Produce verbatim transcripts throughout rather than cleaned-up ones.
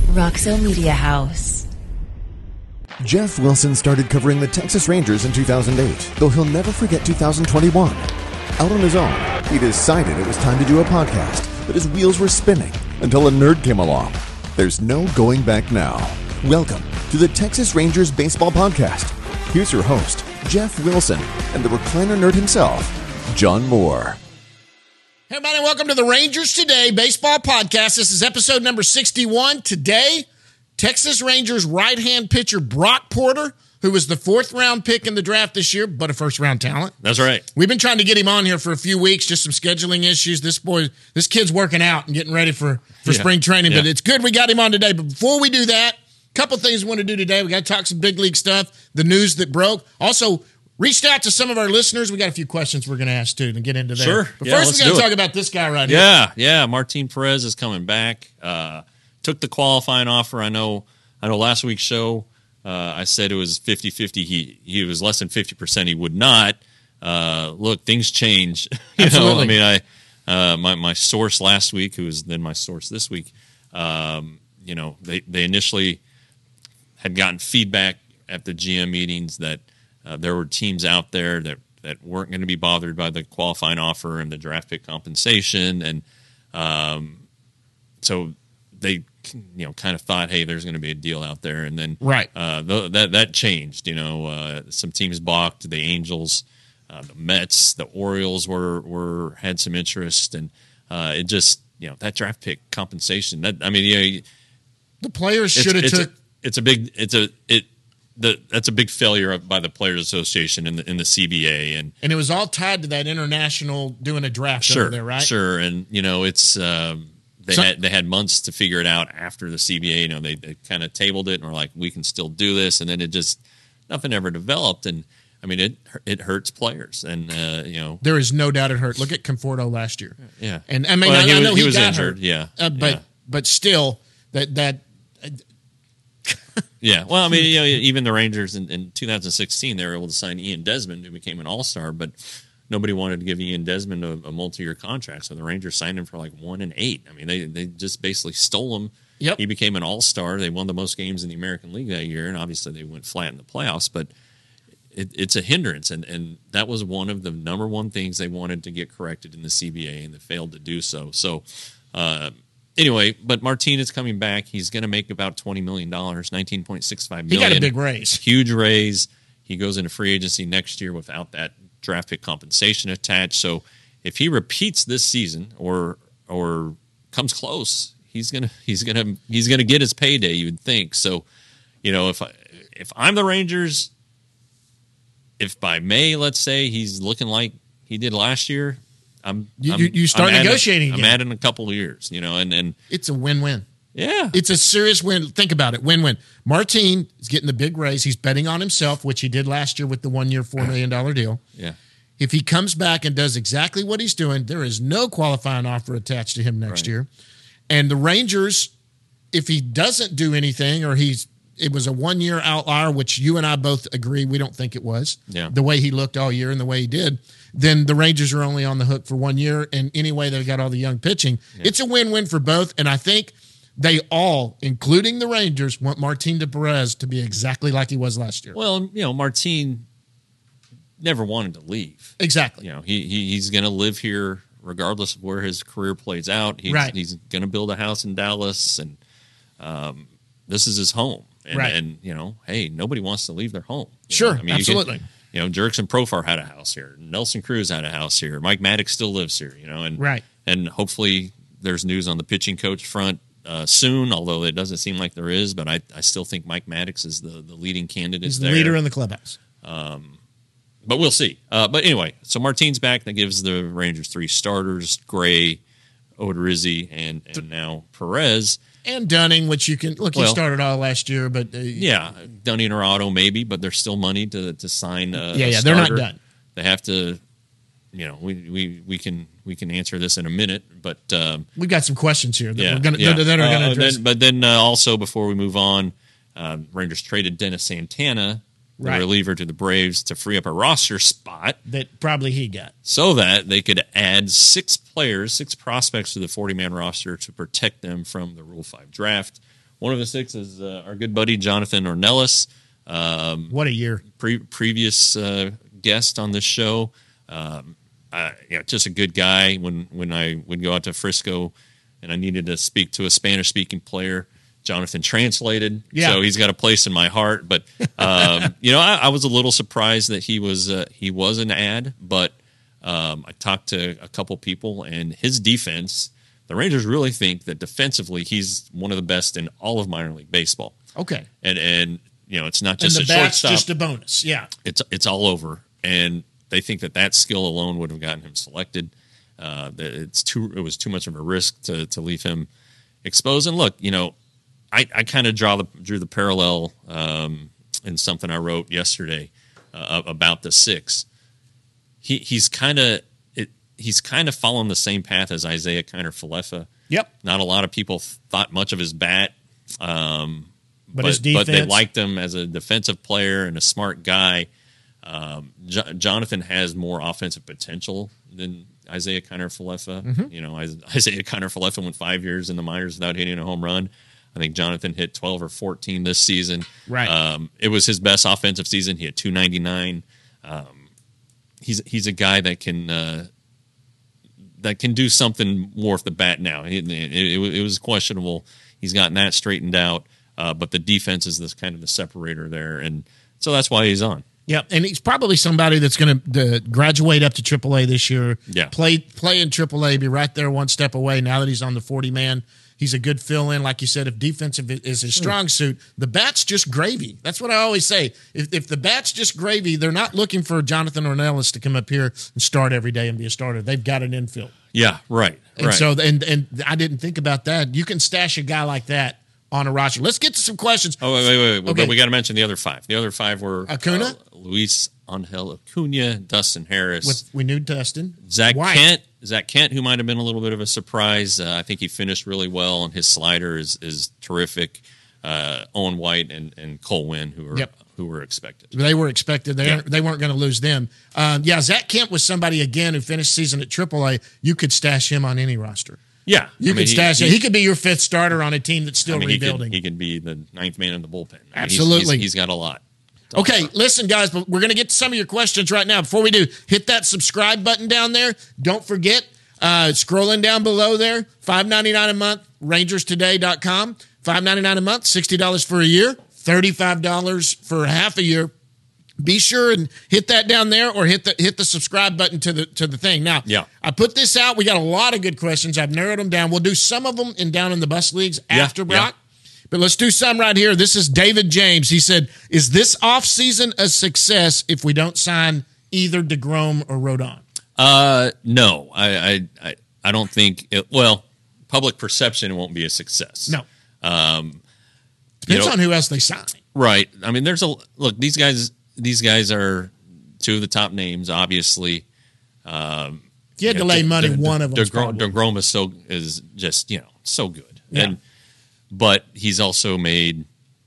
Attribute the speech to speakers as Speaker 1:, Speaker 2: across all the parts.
Speaker 1: Roxo Media House.
Speaker 2: Jeff Wilson started covering the Texas Rangers in two thousand eight, though he'll never forget two thousand twenty-one. Out on his own, he decided it was time to do a podcast, but his wheels were spinning until a nerd came along. There's no going back now. Welcome to the Texas Rangers Baseball Podcast. Here's your host, Jeff Wilson, and the recliner nerd himself, John Moore.
Speaker 3: Hey, everybody, welcome to the Rangers Today Baseball Podcast. This is episode number sixty-one. Today, Texas Rangers right-hand pitcher Brock Porter, who was the fourth-round pick in the draft this year, but a first-round talent.
Speaker 4: That's right.
Speaker 3: We've been trying to get him on here for a few weeks, just some scheduling issues. This boy, this kid's working out and getting ready for, for
Speaker 4: yeah.
Speaker 3: spring training,
Speaker 4: yeah.
Speaker 3: but it's good we got him on today. But before we do that, a couple things we want to do today. We got to talk some big league stuff, the news that broke. Also, reached out to some of our listeners. We got a few questions we're going to ask, too, to get into there.
Speaker 4: Sure.
Speaker 3: But
Speaker 4: yeah,
Speaker 3: first, we got to talk
Speaker 4: it.
Speaker 3: about this guy right
Speaker 4: yeah,
Speaker 3: here.
Speaker 4: Yeah, yeah. Martin Perez is coming back. Uh, took the qualifying offer. I know I know last week's show, uh, I said it was fifty-fifty. He he was less than fifty percent. He would not. Uh, look, things change. you
Speaker 3: Absolutely.
Speaker 4: know, I mean, I uh, my, my source last week, who was then my source this week, um, you know, they, they initially had gotten feedback at the G M meetings that Uh, there were teams out there that, that weren't going to be bothered by the qualifying offer and the draft pick compensation. And um, so they, you know, kind of thought, hey, there's going to be a deal out there. And then
Speaker 3: Right.
Speaker 4: uh, th- that that changed. You know, uh, some teams balked. The Angels, uh, the Mets, the Orioles were, were had some interest. And uh, it just, you know, that draft pick compensation, that I mean, you know,
Speaker 3: The players
Speaker 4: it's,
Speaker 3: should have
Speaker 4: it's
Speaker 3: took.
Speaker 4: a, it's a big, it's a, it, The, that's a big failure by the Players Association in the in the C B A, and
Speaker 3: And it was all tied to that international doing a draft
Speaker 4: sure,
Speaker 3: over there, right?
Speaker 4: sure, and you know it's um, they
Speaker 3: So-
Speaker 4: had they had months to figure it out after the C B A. You know they, they kind of tabled it and were like, we can still do this, and then it just nothing ever developed, and I mean it it hurts players, and uh, you know
Speaker 3: There is no doubt it hurt. Look at Conforto last year.
Speaker 4: yeah,
Speaker 3: And I mean,
Speaker 4: Well,
Speaker 3: I,
Speaker 4: he
Speaker 3: I
Speaker 4: was-
Speaker 3: know
Speaker 4: he
Speaker 3: he,
Speaker 4: was
Speaker 3: got
Speaker 4: injured,
Speaker 3: hurt,
Speaker 4: yeah,
Speaker 3: uh, but
Speaker 4: yeah.
Speaker 3: but still, that that
Speaker 4: Yeah, well, I mean, you know, even the Rangers in, in two thousand sixteen, they were able to sign Ian Desmond, who became an All-Star, but nobody wanted to give Ian Desmond a, a multi-year contract, so the Rangers signed him for like one and eight. I mean, they they just basically stole him.
Speaker 3: Yep.
Speaker 4: He became an All-Star. They won the most games in the American League that year, and obviously they went flat in the playoffs, but it, it's a hindrance, and, and that was one of the number one things they wanted to get corrected in the C B A, and they failed to do so. So, uh, Anyway, but Martin is coming back. He's going to make about twenty million dollars, nineteen point six five
Speaker 3: he
Speaker 4: million dollars.
Speaker 3: got a big raise.
Speaker 4: Huge raise. He goes into free agency next year without that draft pick compensation attached. So if he repeats this season or or comes close, he's gonna he's gonna he's gonna get his payday, you would think. So, you know, if I, if I'm the Rangers, if by May, let's say, he's looking like he did last year, I'm
Speaker 3: You-
Speaker 4: I'm,
Speaker 3: you- you start
Speaker 4: I'm adding-
Speaker 3: negotiating
Speaker 4: I'm
Speaker 3: again.
Speaker 4: adding a couple of years, you know, and and
Speaker 3: It's a win-win.
Speaker 4: yeah,
Speaker 3: It's a serious win. Think about it. Win-win. Martin is getting the big raise. He's betting on himself, which he did last year with the one-year, four million dollars deal.
Speaker 4: yeah.
Speaker 3: If he comes back and does exactly what he's doing, there is no qualifying offer attached to him next
Speaker 4: Right.
Speaker 3: year. And the Rangers, if he doesn't do anything or he's it was a one-year outlier, which you and I both agree we don't think it was,
Speaker 4: Yeah.
Speaker 3: the way he looked all year and the way he did, then the Rangers are only on the hook for one year. And anyway, they've got all the young pitching.
Speaker 4: Yeah.
Speaker 3: It's a win-win for both. And I think they all, including the Rangers, want Martin de Perez to be exactly like he was last year.
Speaker 4: Well, you know, Martin never wanted to leave.
Speaker 3: Exactly.
Speaker 4: You know, he, he he's going to live here regardless of where his career plays out. He's,
Speaker 3: Right.
Speaker 4: He's going to build a house in Dallas, and um, this is his home. And,
Speaker 3: Right.
Speaker 4: and you know, hey, nobody wants to leave their home. You
Speaker 3: Sure,
Speaker 4: know, I mean,
Speaker 3: absolutely.
Speaker 4: You, can, you know, Jurickson Profar had a house here. Nelson Cruz had a house here. Mike Maddox still lives here. You know, and
Speaker 3: Right.
Speaker 4: and hopefully there's news on the pitching coach front uh, soon. Although it doesn't seem like there is, but I, I still think Mike Maddox is the, the leading candidate.
Speaker 3: He's the
Speaker 4: there.
Speaker 3: leader in the clubhouse.
Speaker 4: But we'll see. Uh, but anyway, so Martin's back. That gives the Rangers three starters: Gray, Odorizzi, and and now Perez.
Speaker 3: And Dunning, which you can look, he
Speaker 4: Well-
Speaker 3: started all last year, but uh,
Speaker 4: Yeah, Dunning or Otto maybe, but there's still money to to sign. A,
Speaker 3: Yeah,
Speaker 4: a
Speaker 3: yeah, they're not
Speaker 4: starter.
Speaker 3: done.
Speaker 4: They have to. You know, we, we, we can we can answer this in a minute, but um,
Speaker 3: we've got some questions here that
Speaker 4: yeah,
Speaker 3: we're gonna
Speaker 4: yeah.
Speaker 3: that are going to
Speaker 4: Uh,
Speaker 3: address.
Speaker 4: then- but then uh, also before we move on, uh, Rangers traded Dennis Santana, the
Speaker 3: Right.
Speaker 4: reliever, to the Braves to free up a roster spot,
Speaker 3: that probably he got.
Speaker 4: so that they could add six players, six prospects to the forty-man roster to protect them from the Rule five draft. one of the six is uh, our good buddy Jonathan Ornelas. Um,
Speaker 3: what a year!
Speaker 4: Pre- previous uh, guest on this show. Um, uh, yeah, just a good guy. When when I would go out to Frisco and I needed to speak to a Spanish-speaking player, Jonathan translated.
Speaker 3: Yeah.
Speaker 4: So he's got a place in my heart. But um, you know, I, I was a little surprised that he was uh, he was an ad, but um, I talked to a couple people, and his defense. The Rangers really think that defensively he's one of the best in all of minor league baseball.
Speaker 3: Okay,
Speaker 4: and and you know it's not just
Speaker 3: and the
Speaker 4: a
Speaker 3: bat's
Speaker 4: shortstop.
Speaker 3: Just a bonus. Yeah,
Speaker 4: it's it's all over, and they think that that skill alone would have gotten him selected. Uh, that it's too it was too much of a risk to to leave him exposed. And look, you know, I, I kind of draw the drew the parallel um, in something I wrote yesterday uh, about the six. He he's kind of. He's kind of following the same path as Isaiah Kiner-Falefa.
Speaker 3: Yep.
Speaker 4: Not a lot of people thought much of his bat, um,
Speaker 3: but,
Speaker 4: but,
Speaker 3: his defense.
Speaker 4: but they liked him as a defensive player and a smart guy. Um, Jo- Jonathan has more offensive potential than Isaiah Kiner-Falefa.
Speaker 3: Mm-hmm.
Speaker 4: You know, Isaiah Kiner-Falefa went five years in the minors without hitting a home run. I think Jonathan hit twelve or fourteen this season.
Speaker 3: Right.
Speaker 4: Um, it was his best offensive season. He had two ninety-nine. Um, he's he's a guy that can. Uh, that can do something more with the bat now. It, it, it, it was questionable. He's gotten that straightened out, uh, but the defense is this kind of the separator there, and so that's why he's on.
Speaker 3: Yeah, and he's probably somebody that's going to graduate up to triple A this year.
Speaker 4: Yeah.
Speaker 3: Play play in triple A, be right there one step away now that he's on the forty-man. He's a good fill-in. Like you said, if defensive is his strong suit, the bat's just gravy. That's what I always say. If, if the bat's just gravy, they're not looking for Jonathan Ornelas to come up here and start every day and be a starter. They've got an infield.
Speaker 4: Yeah, right.
Speaker 3: And
Speaker 4: right.
Speaker 3: so, and and I didn't think about that. You can stash a guy like that on a roster. Let's get to some questions.
Speaker 4: Oh, wait, wait, wait.
Speaker 3: Okay.
Speaker 4: But we got to mention the other five. The other five were
Speaker 3: Acuna?
Speaker 4: uh, Luis Angel Acuna, Dustin Harris.
Speaker 3: With, we knew Dustin.
Speaker 4: Zach
Speaker 3: White.
Speaker 4: Kent. Zach Kent, who might have been a little bit of a surprise. Uh, I think he finished really well, and his slider is is terrific. Uh, Owen White and, and Cole Winn, who were
Speaker 3: Yep.
Speaker 4: who were expected.
Speaker 3: They were expected. They,
Speaker 4: Yeah.
Speaker 3: they weren't going to lose them. Um, yeah, Zach Kent was somebody, again, who finished season at triple A. You could stash him on any roster.
Speaker 4: Yeah,
Speaker 3: You
Speaker 4: I mean,
Speaker 3: could stash
Speaker 4: he,
Speaker 3: him. He could be your fifth starter on a team that's still
Speaker 4: I mean, he
Speaker 3: rebuilding.
Speaker 4: Could, he could be the ninth man in the bullpen. I mean, he's-
Speaker 3: Absolutely.
Speaker 4: he's, he's got a lot. to
Speaker 3: Okay,
Speaker 4: offer.
Speaker 3: listen, guys, but we're going to get to some of your questions right now. Before we do, hit that subscribe button down there. Don't forget, uh, scrolling down below there, five ninety-nine a month, rangers today dot com. five ninety-nine a month, sixty dollars for a year, thirty-five dollars for half a year. Be sure and hit that down there, or hit the hit the subscribe button to the to the thing. Now,
Speaker 4: Yeah.
Speaker 3: I put this out. We got a lot of good questions. I've narrowed them down. We'll do some of them in down in the bus leagues
Speaker 4: Yeah,
Speaker 3: after
Speaker 4: yeah.
Speaker 3: Brock. But let's do some right here. This is David James. He said, is this offseason a success if we don't sign either DeGrom or Rodon?
Speaker 4: Uh, no, I, I, I, I don't think. It, well, public perception won't be a success.
Speaker 3: No.
Speaker 4: Um,
Speaker 3: Depends
Speaker 4: you know,
Speaker 3: on who else they sign.
Speaker 4: right. I mean, there's a look. These guys, these guys are two of the top names, obviously. Um,
Speaker 3: If you had
Speaker 4: you
Speaker 3: to
Speaker 4: know,
Speaker 3: lay
Speaker 4: De-
Speaker 3: money,
Speaker 4: De-
Speaker 3: one of them.
Speaker 4: DeGrom, DeGrom is so is just you know so good,
Speaker 3: Yeah.
Speaker 4: and but he's also made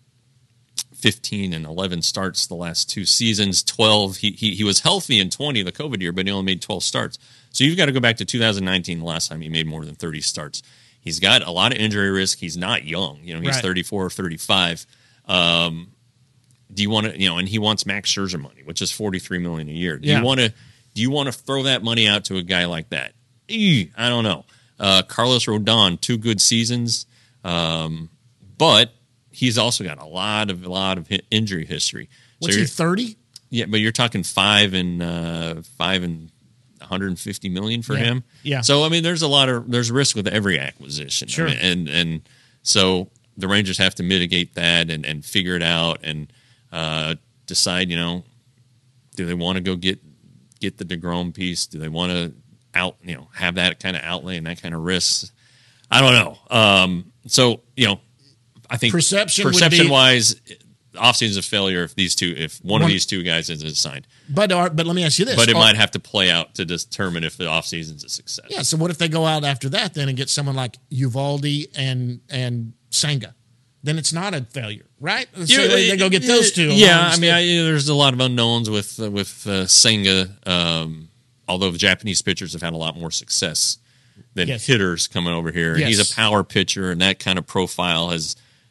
Speaker 4: fifteen and eleven starts the last two seasons. twelve. He he he was healthy in twenty, the COVID year, but he only made twelve starts. So you've got to go back to two thousand nineteen, the last time he made more than thirty starts. He's got a lot of injury risk. He's not young. You know, he's
Speaker 3: Right.
Speaker 4: thirty-four or thirty-five. Um, do you want to, you know, and he wants Max Scherzer money, which is forty-three million dollars a year. Do
Speaker 3: Yeah.
Speaker 4: you want to, do you want to throw that money out to a guy like that? Eeh, I don't know. Uh, Carlos Rodon, two good seasons. Um, but he's also got a lot of, a lot of hi- injury history.
Speaker 3: What's
Speaker 4: so
Speaker 3: he,
Speaker 4: you're-
Speaker 3: thirty?
Speaker 4: yeah, but you're talking five and uh, five and one hundred fifty million for
Speaker 3: Yeah.
Speaker 4: him.
Speaker 3: Yeah.
Speaker 4: So I mean, there's a lot of there's risk with every acquisition. I
Speaker 3: Sure.
Speaker 4: mean, and and so the Rangers have to mitigate that and, and figure it out and uh, decide. You know, do they want to go get get the DeGrom piece? Do they want to out you know have that kind of outlay and that kind of risk? I don't know. Um, so you know, I think
Speaker 3: Perception would
Speaker 4: perception
Speaker 3: be-
Speaker 4: wise. Offseason is a failure if these two, if one,
Speaker 3: One-
Speaker 4: of these two guys isn't signed.
Speaker 3: But, are, but let me ask you this.
Speaker 4: But it
Speaker 3: Are-
Speaker 4: might have to play out to determine if the offseason's a success.
Speaker 3: Yeah, so what if they go out after that then and get someone like Uvalde and and Senga? Then it's not a failure, right? So
Speaker 4: Yeah,
Speaker 3: they, they go get those two.
Speaker 4: Yeah,
Speaker 3: along
Speaker 4: I mean,
Speaker 3: instead.
Speaker 4: I, there's a lot of unknowns with uh, with uh, Senga. Um, although the Japanese pitchers have had a lot more success than
Speaker 3: Yes.
Speaker 4: hitters coming over here, and
Speaker 3: Yes.
Speaker 4: he's a power pitcher, and that kind of profile has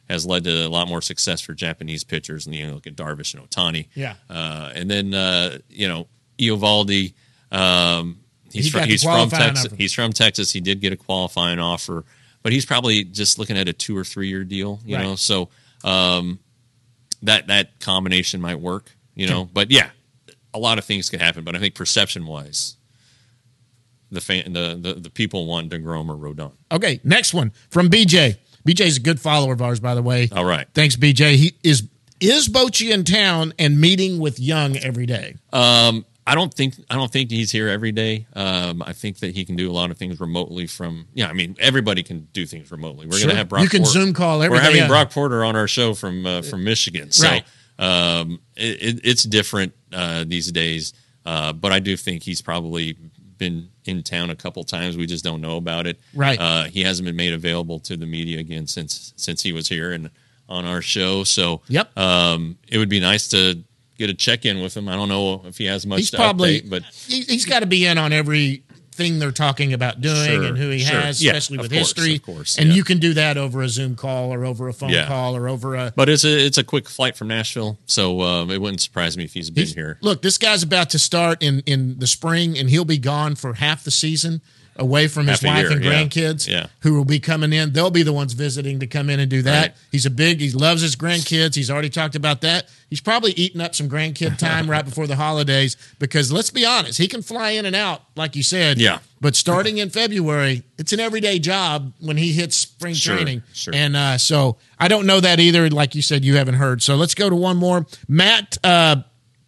Speaker 4: has led to a lot more success for Japanese pitchers. And you know, look at Darvish and Ohtani.
Speaker 3: Yeah.
Speaker 4: Uh, and then uh, you know, Eovaldi. Um, he's
Speaker 3: He
Speaker 4: from,
Speaker 3: got the
Speaker 4: he's from
Speaker 3: qualifying
Speaker 4: Texas.
Speaker 3: offer.
Speaker 4: He's from Texas. He did get a qualifying offer, but he's probably just looking at a two or three year deal. You
Speaker 3: Right.
Speaker 4: know, so um, that that combination might work. You know, but yeah, a lot of things could happen. But I think perception wise, the fan, the, the the people want DeGrom or Rodon.
Speaker 3: Okay, next one from B J. B J's a good follower of ours, by the way.
Speaker 4: All right.
Speaker 3: Thanks, B J. He is is Bochy in town and meeting with Young every day?
Speaker 4: Um, I don't think I don't think he's here every day. Um, I think that he can do a lot of things remotely from. Yeah, I mean everybody can do things remotely. We're
Speaker 3: Sure.
Speaker 4: going to have Brock.
Speaker 3: You can
Speaker 4: Porter.
Speaker 3: Zoom call
Speaker 4: We're
Speaker 3: everything.
Speaker 4: having
Speaker 3: yeah.
Speaker 4: Brock Porter on our show from uh, from Michigan. So
Speaker 3: Right.
Speaker 4: um, it, it, it's different uh, these days. Uh, but I do think he's probably been in town a couple times. We just don't know about it.
Speaker 3: Right.
Speaker 4: Uh, he hasn't been made available to the media again since since he was here and on our show. So
Speaker 3: Yep.
Speaker 4: um, it would be nice to get a check in with him. I don't know if he has much
Speaker 3: He's
Speaker 4: to
Speaker 3: probably,
Speaker 4: update, but
Speaker 3: he, he's got to be in on everything they're talking about doing
Speaker 4: Sure,
Speaker 3: and who he
Speaker 4: sure.
Speaker 3: has,
Speaker 4: Yeah,
Speaker 3: especially
Speaker 4: of
Speaker 3: with
Speaker 4: course,
Speaker 3: history.
Speaker 4: of course,
Speaker 3: and
Speaker 4: yeah.
Speaker 3: you can do that over a Zoom call or over a phone
Speaker 4: Yeah.
Speaker 3: call or over a.
Speaker 4: but it's a it's a quick flight from Nashville, so um, it wouldn't surprise me if he's been
Speaker 3: He's-
Speaker 4: here.
Speaker 3: Look, this guy's about to start in, in the spring, and he'll be gone for half the season, away from his
Speaker 4: Half a
Speaker 3: wife
Speaker 4: year,
Speaker 3: and
Speaker 4: yeah.
Speaker 3: grandkids,
Speaker 4: Yeah.
Speaker 3: who will be coming in. They'll be the ones visiting to come in and do that.
Speaker 4: Right.
Speaker 3: He's a big. He loves his grandkids. He's already talked about that. He's probably eating up some grandkid time right before the holidays because let's be honest, he can fly in and out, like you said.
Speaker 4: Yeah.
Speaker 3: But starting in February, it's an everyday job when he hits spring
Speaker 4: Sure,
Speaker 3: training.
Speaker 4: sure.
Speaker 3: And uh, so I don't know that either. Like you said, you haven't heard. So let's go to one more. Matt uh,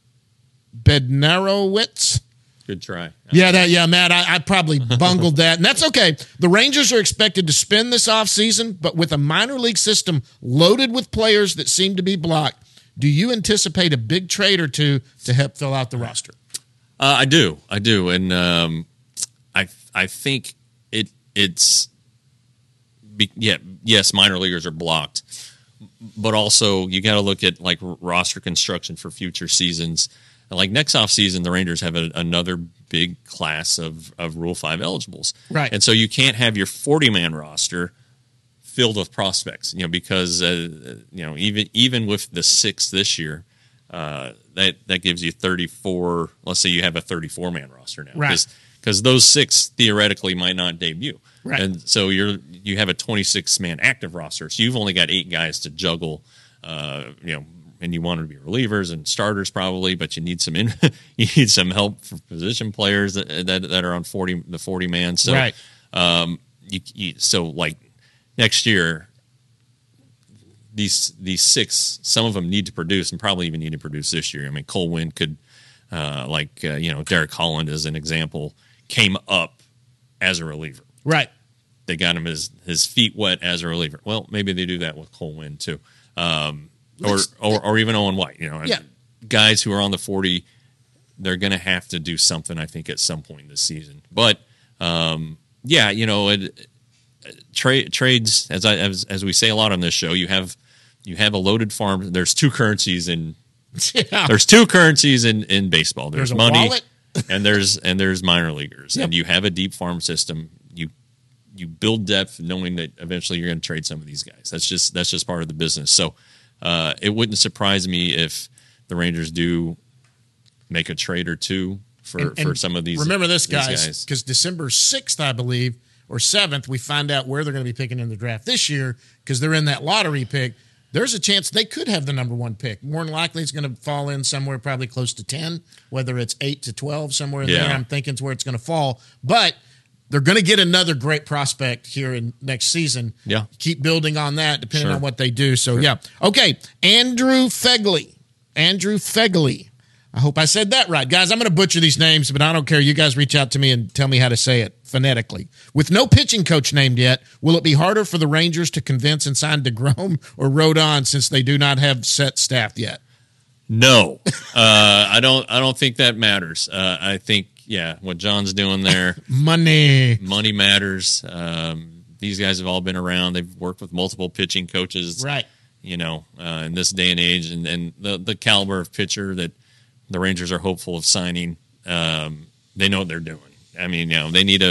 Speaker 3: Bednarowitz.
Speaker 4: Good try.
Speaker 3: Yeah, that yeah, Matt, I, I probably bungled that, and that's okay. The Rangers are expected to spend this offseason, but with a minor league system loaded with players that seem to be blocked, do you anticipate a big trade or two to help fill out the roster?
Speaker 4: Uh, I do, I do, and um, I I think it it's be, yeah yes minor leaguers are blocked, but also you got to look at like roster construction for future seasons. Like next offseason, the Rangers have a, another big class of, of Rule five eligibles.
Speaker 3: Right.
Speaker 4: And so you can't have your forty-man roster filled with prospects, you know, because, uh, you know, even even with the six this year, uh, that, that gives you thirty-four. Let's say you have a thirty-four-man roster now.
Speaker 3: Right.
Speaker 4: Because those six theoretically might not debut.
Speaker 3: Right.
Speaker 4: And so you're you have a twenty-six-man active roster. So you've only got eight guys to juggle, uh, you know, and you want to be relievers and starters probably, but you need some in, you need some help for position players that that, that are on forty the forty man. So,
Speaker 3: Right.
Speaker 4: um, you, you so like next year, these these six, some of them need to produce and probably even need to produce this year. I mean, Cole Winn could, uh, like uh, you know, Derek Holland as an example, came up as a reliever.
Speaker 3: Right.
Speaker 4: They got him his his feet wet as a reliever. Well, maybe they do that with Cole Winn too. Um, Or, or or even Owen White, you know,
Speaker 3: Yeah.
Speaker 4: guys who are on the forty, they're going to have to do something, I think, at some point this season. But um, yeah, you know, it, tra- trades as I as as we say a lot on this show, you have you have a loaded farm. There's two currencies in
Speaker 3: Yeah.
Speaker 4: there's two currencies in, in baseball. There's,
Speaker 3: There's a
Speaker 4: money
Speaker 3: wallet.
Speaker 4: and there's and there's minor leaguers,
Speaker 3: Yep.
Speaker 4: and you have a deep farm system. You you build depth, knowing that eventually you're going to trade some of these guys. That's just that's just part of the business. So. Uh, it wouldn't surprise me if the Rangers do make a trade or two for,
Speaker 3: And-
Speaker 4: for
Speaker 3: and
Speaker 4: some of these.
Speaker 3: Remember this,
Speaker 4: these
Speaker 3: guys, because December sixth, I believe, or seventh, we find out where they're going to be picking in the draft this year because they're in that lottery pick. There's a chance they could have the number one pick. More than likely, it's going to fall in somewhere probably close to ten, whether it's eight to twelve, somewhere in
Speaker 4: Yeah.
Speaker 3: there. I'm thinking it's where it's going to fall. But they're going to get another great prospect here in next season.
Speaker 4: Yeah.
Speaker 3: Keep building on that depending
Speaker 4: Sure.
Speaker 3: on what they do. So, yeah. Okay. Andrew Fegley. Andrew Fegley. I hope I said that right. Guys, I'm going to butcher these names, but I don't care. You guys reach out to me and tell me how to say it phonetically. With no pitching coach named yet, will it be harder for the Rangers to convince and sign DeGrom or Rodon since they do not have set staff yet?
Speaker 4: No, uh, I don't. I don't think that matters. Uh, I think yeah, what John's doing there,
Speaker 3: Money.
Speaker 4: money matters. Um, these guys have all been around. They've worked with multiple pitching coaches,
Speaker 3: Right.
Speaker 4: You know, uh, in this day and age, and, and the the caliber of pitcher that the Rangers are hopeful of signing. Um, they know what they're doing. I mean, you know, they need a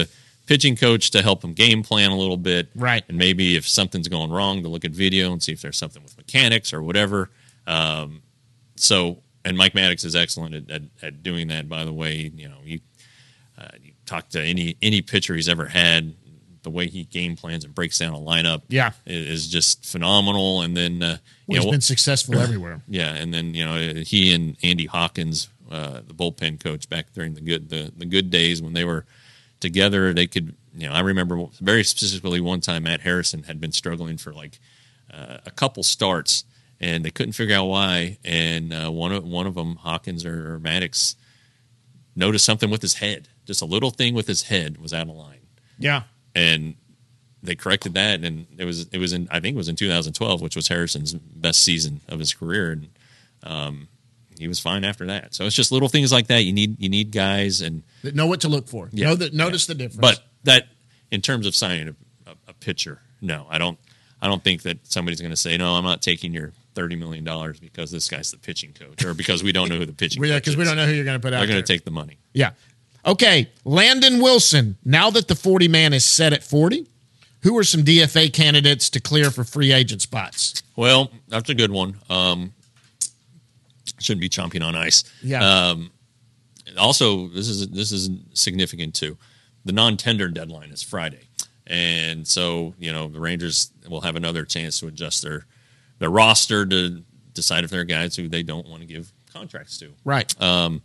Speaker 4: pitching coach to help him game plan a little bit.
Speaker 3: Right.
Speaker 4: And maybe if something's going wrong, to look at video and see if there's something with mechanics or whatever. Um, so, and Mike Maddox is excellent at, at, at doing that, by the way. You know, you, uh, you talk to any any pitcher he's ever had, the way he game plans and breaks down a lineup
Speaker 3: yeah.
Speaker 4: is, is just phenomenal. And then, uh, you
Speaker 3: well, he's
Speaker 4: know,
Speaker 3: been successful everywhere.
Speaker 4: Yeah, and then, you know, he and Andy Hawkins, uh, the bullpen coach back during the good the, the good days when they were together, they could, you know, I remember very specifically one time Matt Harrison had been struggling for like uh, a couple starts, and they couldn't figure out why. And uh, one of one of them, Hawkins or, or Maddox, noticed something with his head. Just a little thing with his head was out of line.
Speaker 3: Yeah,
Speaker 4: and they corrected that, and it was it was in I think it was in two thousand twelve, which was Harrison's best season of his career, and um, he was fine after that. So it's just little things like that. You need you need guys and
Speaker 3: that know what to look for.
Speaker 4: Yeah,
Speaker 3: know that notice
Speaker 4: yeah.
Speaker 3: the difference.
Speaker 4: But that, in terms of signing a, a, a pitcher, no, I don't. I don't think that somebody's going to say, no, I'm not taking your thirty million dollars because this guy's the pitching coach, or because we don't know who the pitching
Speaker 3: yeah,
Speaker 4: coach is.
Speaker 3: because we don't know who you're going to put out.
Speaker 4: They're going
Speaker 3: there.
Speaker 4: to take the money.
Speaker 3: Yeah. Okay, Landon Wilson. Now that the forty man is set at forty, who are some D F A candidates to clear for free agent spots?
Speaker 4: Well, that's a good one. Um, shouldn't be chomping on ice.
Speaker 3: Yeah.
Speaker 4: Um, also, this is this is significant too. The non-tender deadline is Friday, and so you know the Rangers will have another chance to adjust their their roster to decide if there are guys who they don't want to give contracts to.
Speaker 3: Right.
Speaker 4: Um,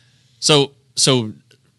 Speaker 4: so so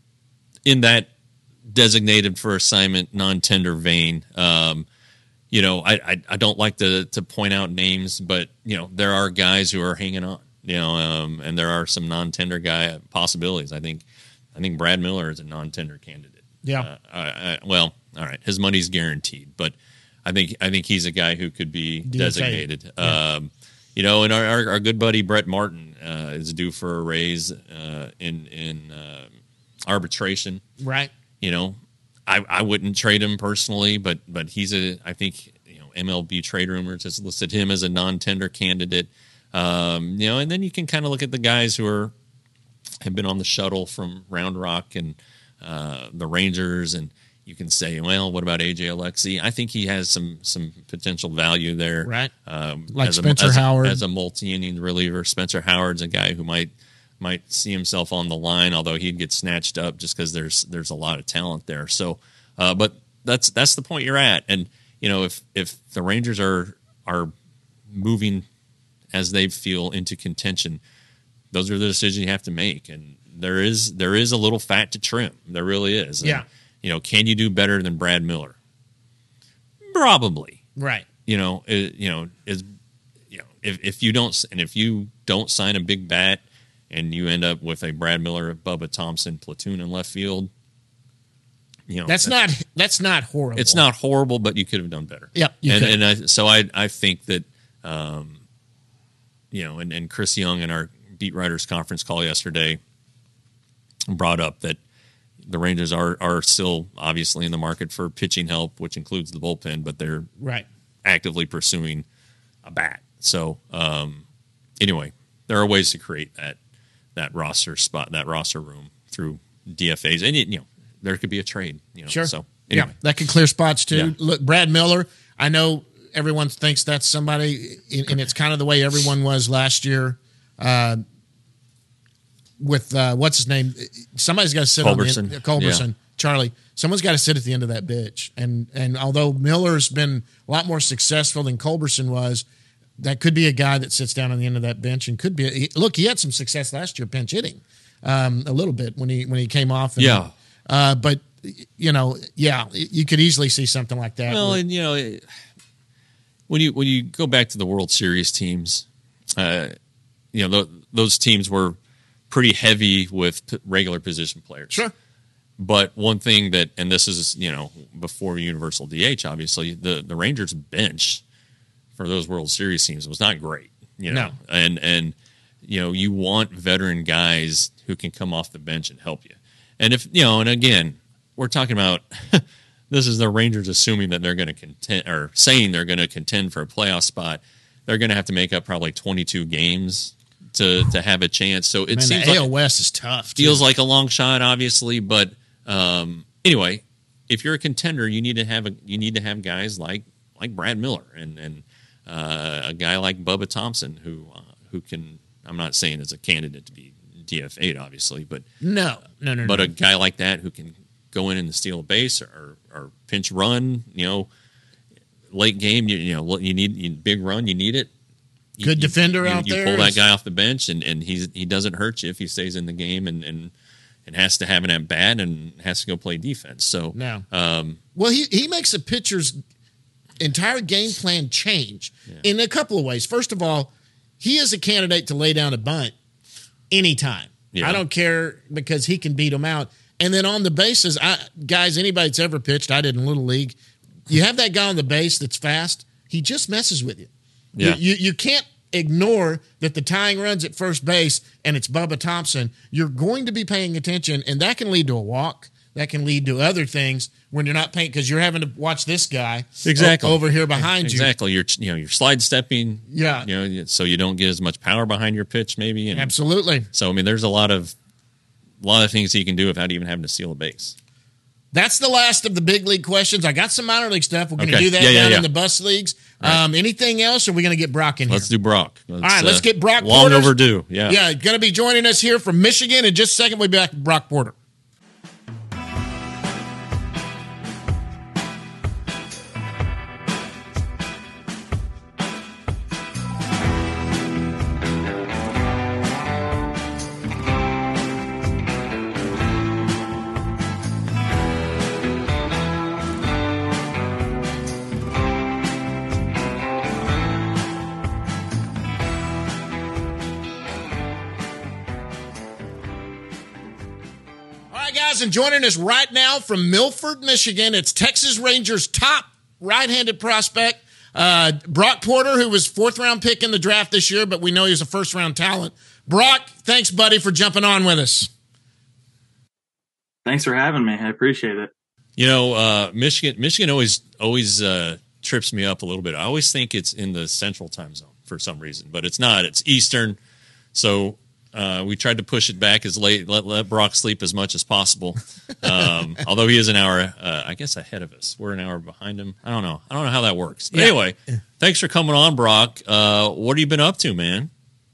Speaker 4: in that designated for assignment non-tender vein, um, you know, I, I I don't like to to point out names, but you know there are guys who are hanging on. You know, um, and there are some non-tender guy possibilities. I think, I think Brad Miller is a non-tender candidate.
Speaker 3: Yeah.
Speaker 4: Uh, I, I, well, all right, his money's guaranteed, but I think I think he's a guy who could be
Speaker 3: D F A.
Speaker 4: designated.
Speaker 3: Yeah.
Speaker 4: Um, you know, and our, our our good buddy Brett Martin uh, is due for a raise uh, in in uh, arbitration.
Speaker 3: Right.
Speaker 4: You know, I I wouldn't trade him personally, but but he's a I think you know M L B Trade Rumors has listed him as a non-tender candidate. Um, you know, and then you can kind of look at the guys who are have been on the shuttle from Round Rock and uh, the Rangers, and you can say, well, what about A J Alexi? I think he has some some potential value there,
Speaker 3: Right.
Speaker 4: Um,
Speaker 3: Like
Speaker 4: as
Speaker 3: Spencer
Speaker 4: a, as
Speaker 3: Howard.
Speaker 4: a, as a multi-inning reliever. Spencer Howard's a guy who might might see himself on the line, although he'd get snatched up just because there's there's a lot of talent there. So, uh, but that's that's the point you're at, and you know, if if the Rangers are are moving as they feel into contention, those are the decisions you have to make. And there is there is a little fat to trim. There really is. And,
Speaker 3: Yeah.
Speaker 4: you know, can you do better than Brad Miller? Probably.
Speaker 3: Right.
Speaker 4: You know, it, you know, is you know, if if you don't and if you don't sign a big bat and you end up with a Brad Miller, Bubba Thompson platoon in left field, you know,
Speaker 3: That's, not that's not horrible.
Speaker 4: it's not horrible, but you could have done better.
Speaker 3: Yep, you
Speaker 4: and
Speaker 3: could.
Speaker 4: and I, so I I think that um, you know, and, and Chris Young in our beat writers conference call yesterday brought up that the Rangers are are still obviously in the market for pitching help, which includes the bullpen, but they're
Speaker 3: Right.
Speaker 4: actively pursuing a bat. So um, anyway, there are ways to create that that roster spot, that roster room through D F As, and it, you know there could be a trade. You know,
Speaker 3: Sure.
Speaker 4: So anyway.
Speaker 3: Yeah, that could clear spots too.
Speaker 4: Yeah.
Speaker 3: Look, Brad Miller, I know everyone thinks that's somebody, and it's kind of the way everyone was last year uh, with, uh, what's his name? Somebody's got to sit
Speaker 4: Culberson.
Speaker 3: on the end. Culberson.
Speaker 4: Yeah.
Speaker 3: Charlie. Someone's got to sit at the end of that bench. And, and although Miller's been a lot more successful than Culberson was, that could be a guy that sits down on the end of that bench and could be. He, look, he had some success last year pinch hitting um, a little bit when he when he came off. And,
Speaker 4: Yeah.
Speaker 3: Uh, but, you know, yeah, you could easily see something like that.
Speaker 4: Well,
Speaker 3: where-
Speaker 4: and you know, it- when you when you go back to the World Series teams, uh, you know, th- those teams were pretty heavy with p- regular position players.
Speaker 3: Sure.
Speaker 4: But one thing that, and this is, you know, before universal D H, obviously, the, the Rangers bench for those World Series teams was not great. You know,
Speaker 3: No.
Speaker 4: and and you know, you want veteran guys who can come off the bench and help you. And if you know, and again, we're talking about this is the Rangers assuming that they're going to contend or saying they're going to contend for a playoff spot. They're going to have to make up probably twenty-two games to to have a chance. So it
Speaker 3: Man,
Speaker 4: seems
Speaker 3: the
Speaker 4: like
Speaker 3: A L West is tough. too.
Speaker 4: feels like a long shot, obviously, but um, anyway, if you're a contender, you need to have a you need to have guys like like Brad Miller and and uh, a guy like Bubba Thompson who uh, who can. I'm not saying as a candidate to be D F A'd, obviously, but
Speaker 3: No, no, no,
Speaker 4: but
Speaker 3: no.
Speaker 4: a guy like that who can go in and steal a base or or pinch run, you know, late game, you, you know, you need you, big run, you need it. You,
Speaker 3: Good defender
Speaker 4: you,
Speaker 3: out
Speaker 4: you
Speaker 3: there.
Speaker 4: You pull that guy off the bench, and, and he's he doesn't hurt you if he stays in the game and and, and has to have an at bat and has to go play defense. So
Speaker 3: No.
Speaker 4: um,
Speaker 3: Well, he, he makes a pitcher's entire game plan change
Speaker 4: Yeah.
Speaker 3: in a couple of ways. First of all, he is a candidate to lay down a bunt anytime.
Speaker 4: Yeah.
Speaker 3: I don't care because he can beat them out. And then on the bases, I, guys, anybody that's ever pitched, I did in Little League, you have that guy on the base that's fast, he just messes with you.
Speaker 4: Yeah.
Speaker 3: You, you, you can't ignore that the tying runs at first base and it's Bubba Thompson. You're going to be paying attention, and that can lead to a walk. That can lead to other things when you're not paying because you're having to watch this guy
Speaker 4: Exactly.
Speaker 3: o- over here behind you.
Speaker 4: exactly. You're you know you're slide stepping.
Speaker 3: Yeah.
Speaker 4: You know, so you don't get as much power behind your pitch, maybe. And
Speaker 3: Absolutely.
Speaker 4: so I mean, there's a lot of a lot of things he can do without even having to steal a base.
Speaker 3: That's the last of the big league questions. I got some minor league stuff. We're going to
Speaker 4: Okay.
Speaker 3: do that
Speaker 4: Yeah, yeah,
Speaker 3: down
Speaker 4: yeah.
Speaker 3: in the bus leagues.
Speaker 4: Right.
Speaker 3: Um, anything else, or are we going to get Brock in here?
Speaker 4: Let's do Brock. Let's,
Speaker 3: All right, let's get Brock
Speaker 4: Long
Speaker 3: Porter.
Speaker 4: overdue. Yeah.
Speaker 3: Yeah, going to be joining us here from Michigan. In just a second, we'll be back with Brock Porter. All right, guys, and joining us right now from Milford, Michigan, it's Texas Rangers' top right-handed prospect, uh, Brock Porter, who was fourth-round pick in the draft this year, but we know he was a first-round talent. Brock, thanks, buddy, for jumping on with us.
Speaker 5: Thanks for having me. I appreciate it.
Speaker 4: You know, uh, Michigan. Michigan always always uh, trips me up a little bit. I always think it's in the Central Time Zone for some reason, but it's not. It's Eastern. So uh, we tried to push it back as late. Let, let Brock sleep as much as possible. Um, although he is an hour, uh, I guess, ahead of us. We're an hour behind him. I don't know. I don't know how that works. But
Speaker 3: Yeah.
Speaker 4: anyway, thanks for coming on, Brock. Uh, what have you been up to, man?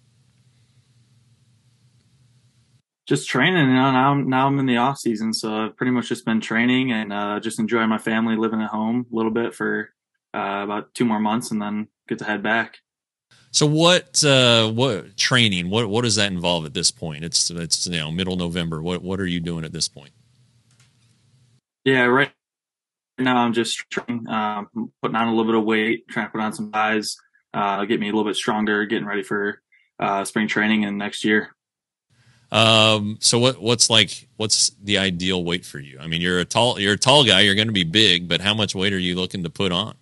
Speaker 5: Just training. You know, now, I'm, now I'm in the off season, so I've pretty much just been training and uh, just enjoying my family, living at home a little bit for uh, about two more months, and then get to head back.
Speaker 4: So what uh, what training? What what does that involve at this point? It's it's you know middle November. What what are you doing at this point?
Speaker 5: Yeah, right now I'm just training, um, putting on a little bit of weight, trying to put on some size, uh, get me a little bit stronger, getting ready for uh, spring training and next year.
Speaker 4: Um, so what, what's like, what's the ideal weight for you? I mean, you're a tall, you're a tall guy, you're going to be big, but how much weight are you looking to put on?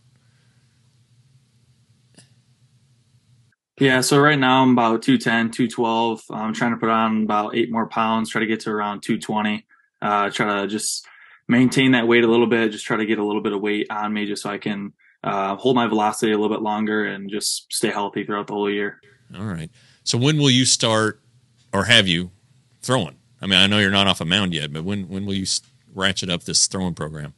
Speaker 5: Yeah, so right now I'm about two ten, two twelve. I'm trying to put on about eight more pounds, try to get to around two twenty. Uh, try to just maintain that weight a little bit, just try to get a little bit of weight on me just so I can uh, hold my velocity a little bit longer and just stay healthy throughout the whole year.
Speaker 4: All right. So when will you start, or have you, throwing? I mean, I know you're not off a mound yet, but when when will you ratchet up this throwing program?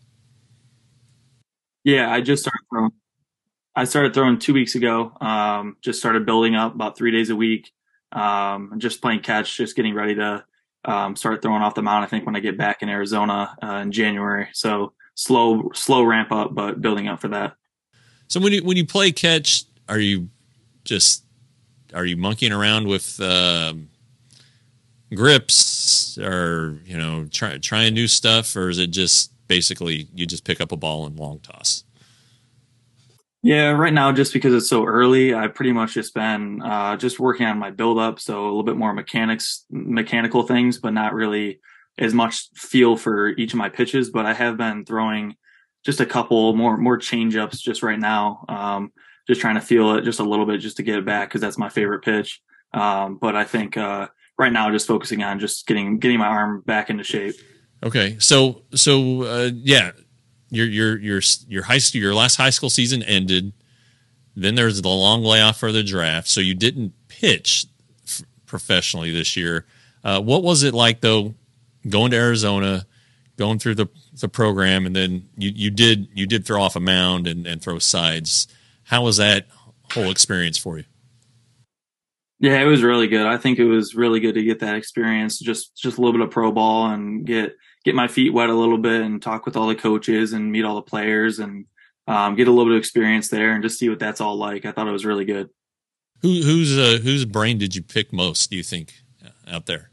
Speaker 5: Yeah, I just started throwing. I started throwing two weeks ago. Um, just started building up about three days a week. Um, just playing catch, just getting ready to um, start throwing off the mound. I think when I get back in Arizona uh, in January. So slow, slow ramp up, but building up for that.
Speaker 4: So when you when you play catch, are you just are you monkeying around with um, grips, or you know try, trying new stuff, or is it just basically you just pick up a ball and long toss?
Speaker 5: Yeah, right now, just because it's so early, I've pretty much just been uh, just working on my build up. So a little bit more mechanics, mechanical things, but not really as much feel for each of my pitches. But I have been throwing just a couple more, more change ups just right now. Um, just trying to feel it just a little bit just to get it back, because that's my favorite pitch. Um, but I think uh, right now, just focusing on just getting, getting my arm back into shape.
Speaker 4: Okay. So, so uh, yeah. Your your your your high school your last high school season ended. Then there's the long layoff for the draft, so you didn't pitch f- professionally this year. Uh, what was it like though, going to Arizona, going through the, the program, and then you, you did you did throw off a mound and, and throw sides. How was that whole experience for you?
Speaker 5: Yeah, it was really good. I think it was really good to get that experience, just just a little bit of pro ball and get get my feet wet a little bit and talk with all the coaches and meet all the players and um, get a little bit of experience there and just see what that's all like. I thought it was really good.
Speaker 4: Who whose uh, whose brain did you pick most, do you think, out there?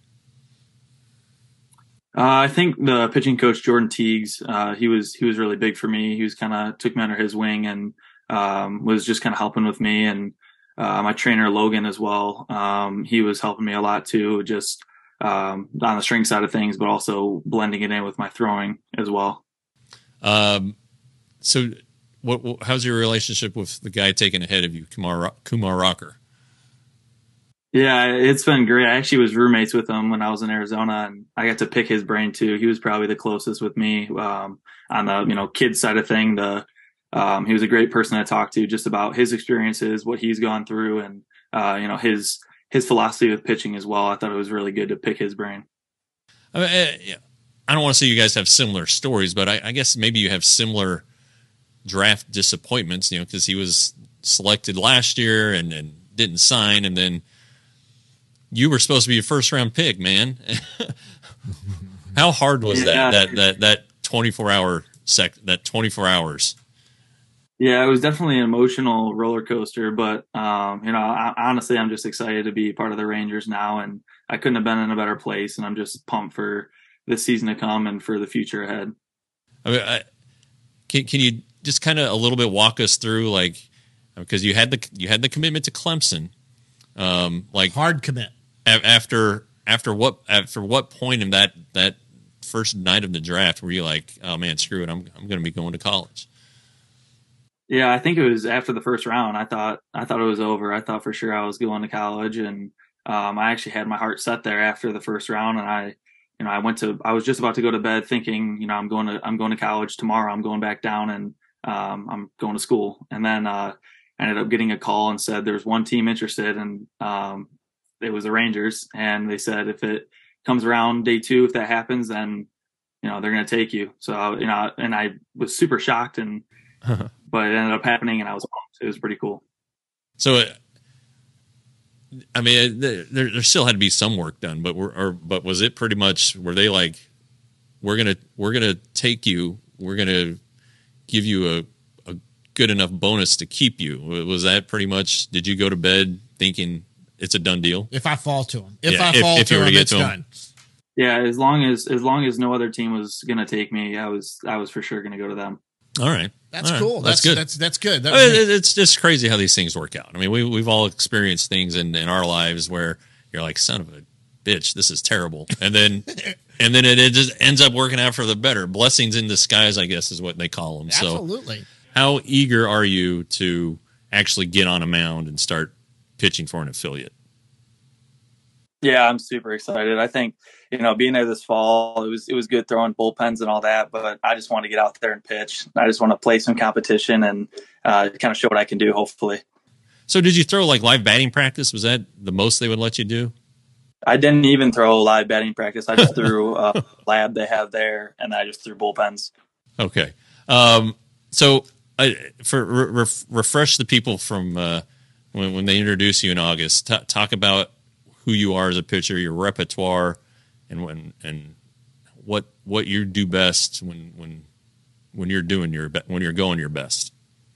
Speaker 5: Uh, I think the pitching coach Jordan Teagues, uh, he was he was really big for me. He was kind of took me under his wing and um, was just kind of helping with me. And uh, my trainer Logan as well, um, he was helping me a lot too, just um, on the string side of things, but also blending it in with my throwing as well. Um,
Speaker 4: so, what, what how's your relationship with the guy taking ahead of you, Kumar Kumar Rocker?
Speaker 5: Yeah, it's been great. I actually was roommates with him when I was in Arizona, and I got to pick his brain too. He was probably the closest with me um, on the you know kids side of thing. The um, he was a great person to talk to, just about his experiences, what he's gone through, and uh, you know his his philosophy with pitching as well. I thought it was really good to pick his brain.
Speaker 4: I mean, I don't want to say you guys have similar stories, but I, I guess maybe you have similar draft disappointments. You know, because he was selected last year and, and didn't sign, and then you were supposed to be a first round pick, man. How hard was
Speaker 5: yeah.
Speaker 4: that, that, that, that twenty-four hour sec, that twenty-four hours?
Speaker 5: Yeah, it was definitely an emotional roller coaster, but, um, you know, I, honestly, I'm just excited to be part of the Rangers now, and I couldn't have been in a better place. And I'm just pumped for this season to come and for the future ahead.
Speaker 4: I mean, I, can, can you just kind of a little bit walk us through, like, because you had the, you had the commitment to Clemson, um, like
Speaker 3: hard commit.
Speaker 4: After after what after what point in that that first night of the draft were you like, oh man, screw it, I'm I'm going to be going to college?
Speaker 5: Yeah, I think it was after the first round. I thought I thought it was over. I thought for sure I was going to college, and um, I actually had my heart set there after the first round. And I, you know, I went to I was just about to go to bed, thinking, you know, I'm going to I'm going to college tomorrow. I'm going back down, and um, I'm going to school. And then uh, I ended up getting a call and said there's one team interested, and um, it was the Rangers, and they said if it comes around day two, if that happens, then you know they're going to take you. So you know, and I was super shocked, and but it ended up happening, and I was pumped. It was pretty cool.
Speaker 4: So, I mean, there, there still had to be some work done, but were, or, but was it pretty much? Were they like, we're gonna we're gonna take you, we're gonna give you a a good enough bonus to keep you? Was that pretty much? Did you go to bed thinking it's a done deal?
Speaker 3: If I fall to him, if
Speaker 4: yeah,
Speaker 3: I fall
Speaker 4: if, if
Speaker 3: to
Speaker 4: you were
Speaker 3: him,
Speaker 4: to get
Speaker 3: it's
Speaker 4: to him.
Speaker 3: done.
Speaker 5: Yeah, as long as as long as no other team was going to take me, I was I was for sure going to go to them.
Speaker 4: All right,
Speaker 3: that's
Speaker 4: all right.
Speaker 3: cool.
Speaker 4: That's,
Speaker 3: That's,
Speaker 4: good.
Speaker 3: That's that's good. That
Speaker 4: I mean, it's just crazy how these things work out. I mean, we we've all experienced things in, in our lives where you're like, son of a bitch, this is terrible, and then and then it, it just ends up working out for the better. Blessings in disguise, I guess, is what they call them.
Speaker 3: Absolutely.
Speaker 4: So, how eager are you to actually get on a mound and start pitching for an affiliate?
Speaker 6: Yeah, I'm super excited. I think, you know, being there this fall, it was it was good throwing bullpens and all that, but I just want to get out there and pitch. I just want to play some competition and uh, kind of show what I can do, hopefully.
Speaker 4: So did you throw like live batting practice? Was that the most they would let you do?
Speaker 6: I didn't even throw live batting practice. I just threw a lab they have there, and I just threw bullpens.
Speaker 4: Okay. Um, so uh, for re- refresh the people from uh, when, when they introduce you in August, t- talk about who you are as a pitcher, your repertoire, and when and what what you do best when when when you're doing your be- when you're going your best.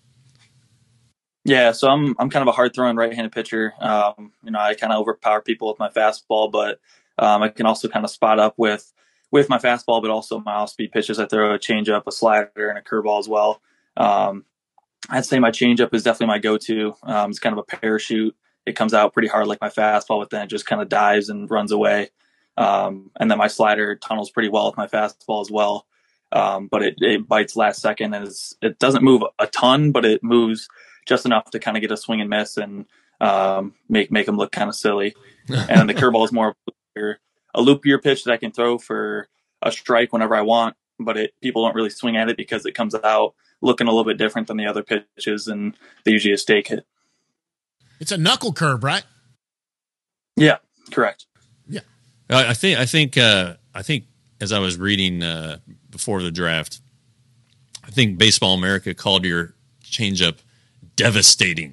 Speaker 6: Yeah, so I'm I'm kind of a hard throwing right-handed pitcher. Um, you know, I kind of overpower people with my fastball, but um, I can also kind of spot up with with my fastball, but also my off-speed pitches. I throw a changeup, a slider, and a curveball as well. Um, I'd say my changeup is definitely my go-to. Um, it's kind of a parachute. It comes out pretty hard like my fastball, but then it just kind of dives and runs away. Um, and then my slider tunnels pretty well with my fastball as well. Um, but it, it bites last second, and it's, it doesn't move a ton, but it moves just enough to kind of get a swing and miss and um, make make them look kind of silly. And the curveball is more a loopier pitch that I can throw for a strike whenever I want, but it people don't really swing at it because it comes out looking a little bit different than the other pitches, and they usually a stake hit.
Speaker 3: It's a knuckle curve, right?
Speaker 6: Yeah, correct.
Speaker 3: Yeah.
Speaker 4: I think I think uh, I think as I was reading uh, before the draft. I think Baseball America called your changeup devastating.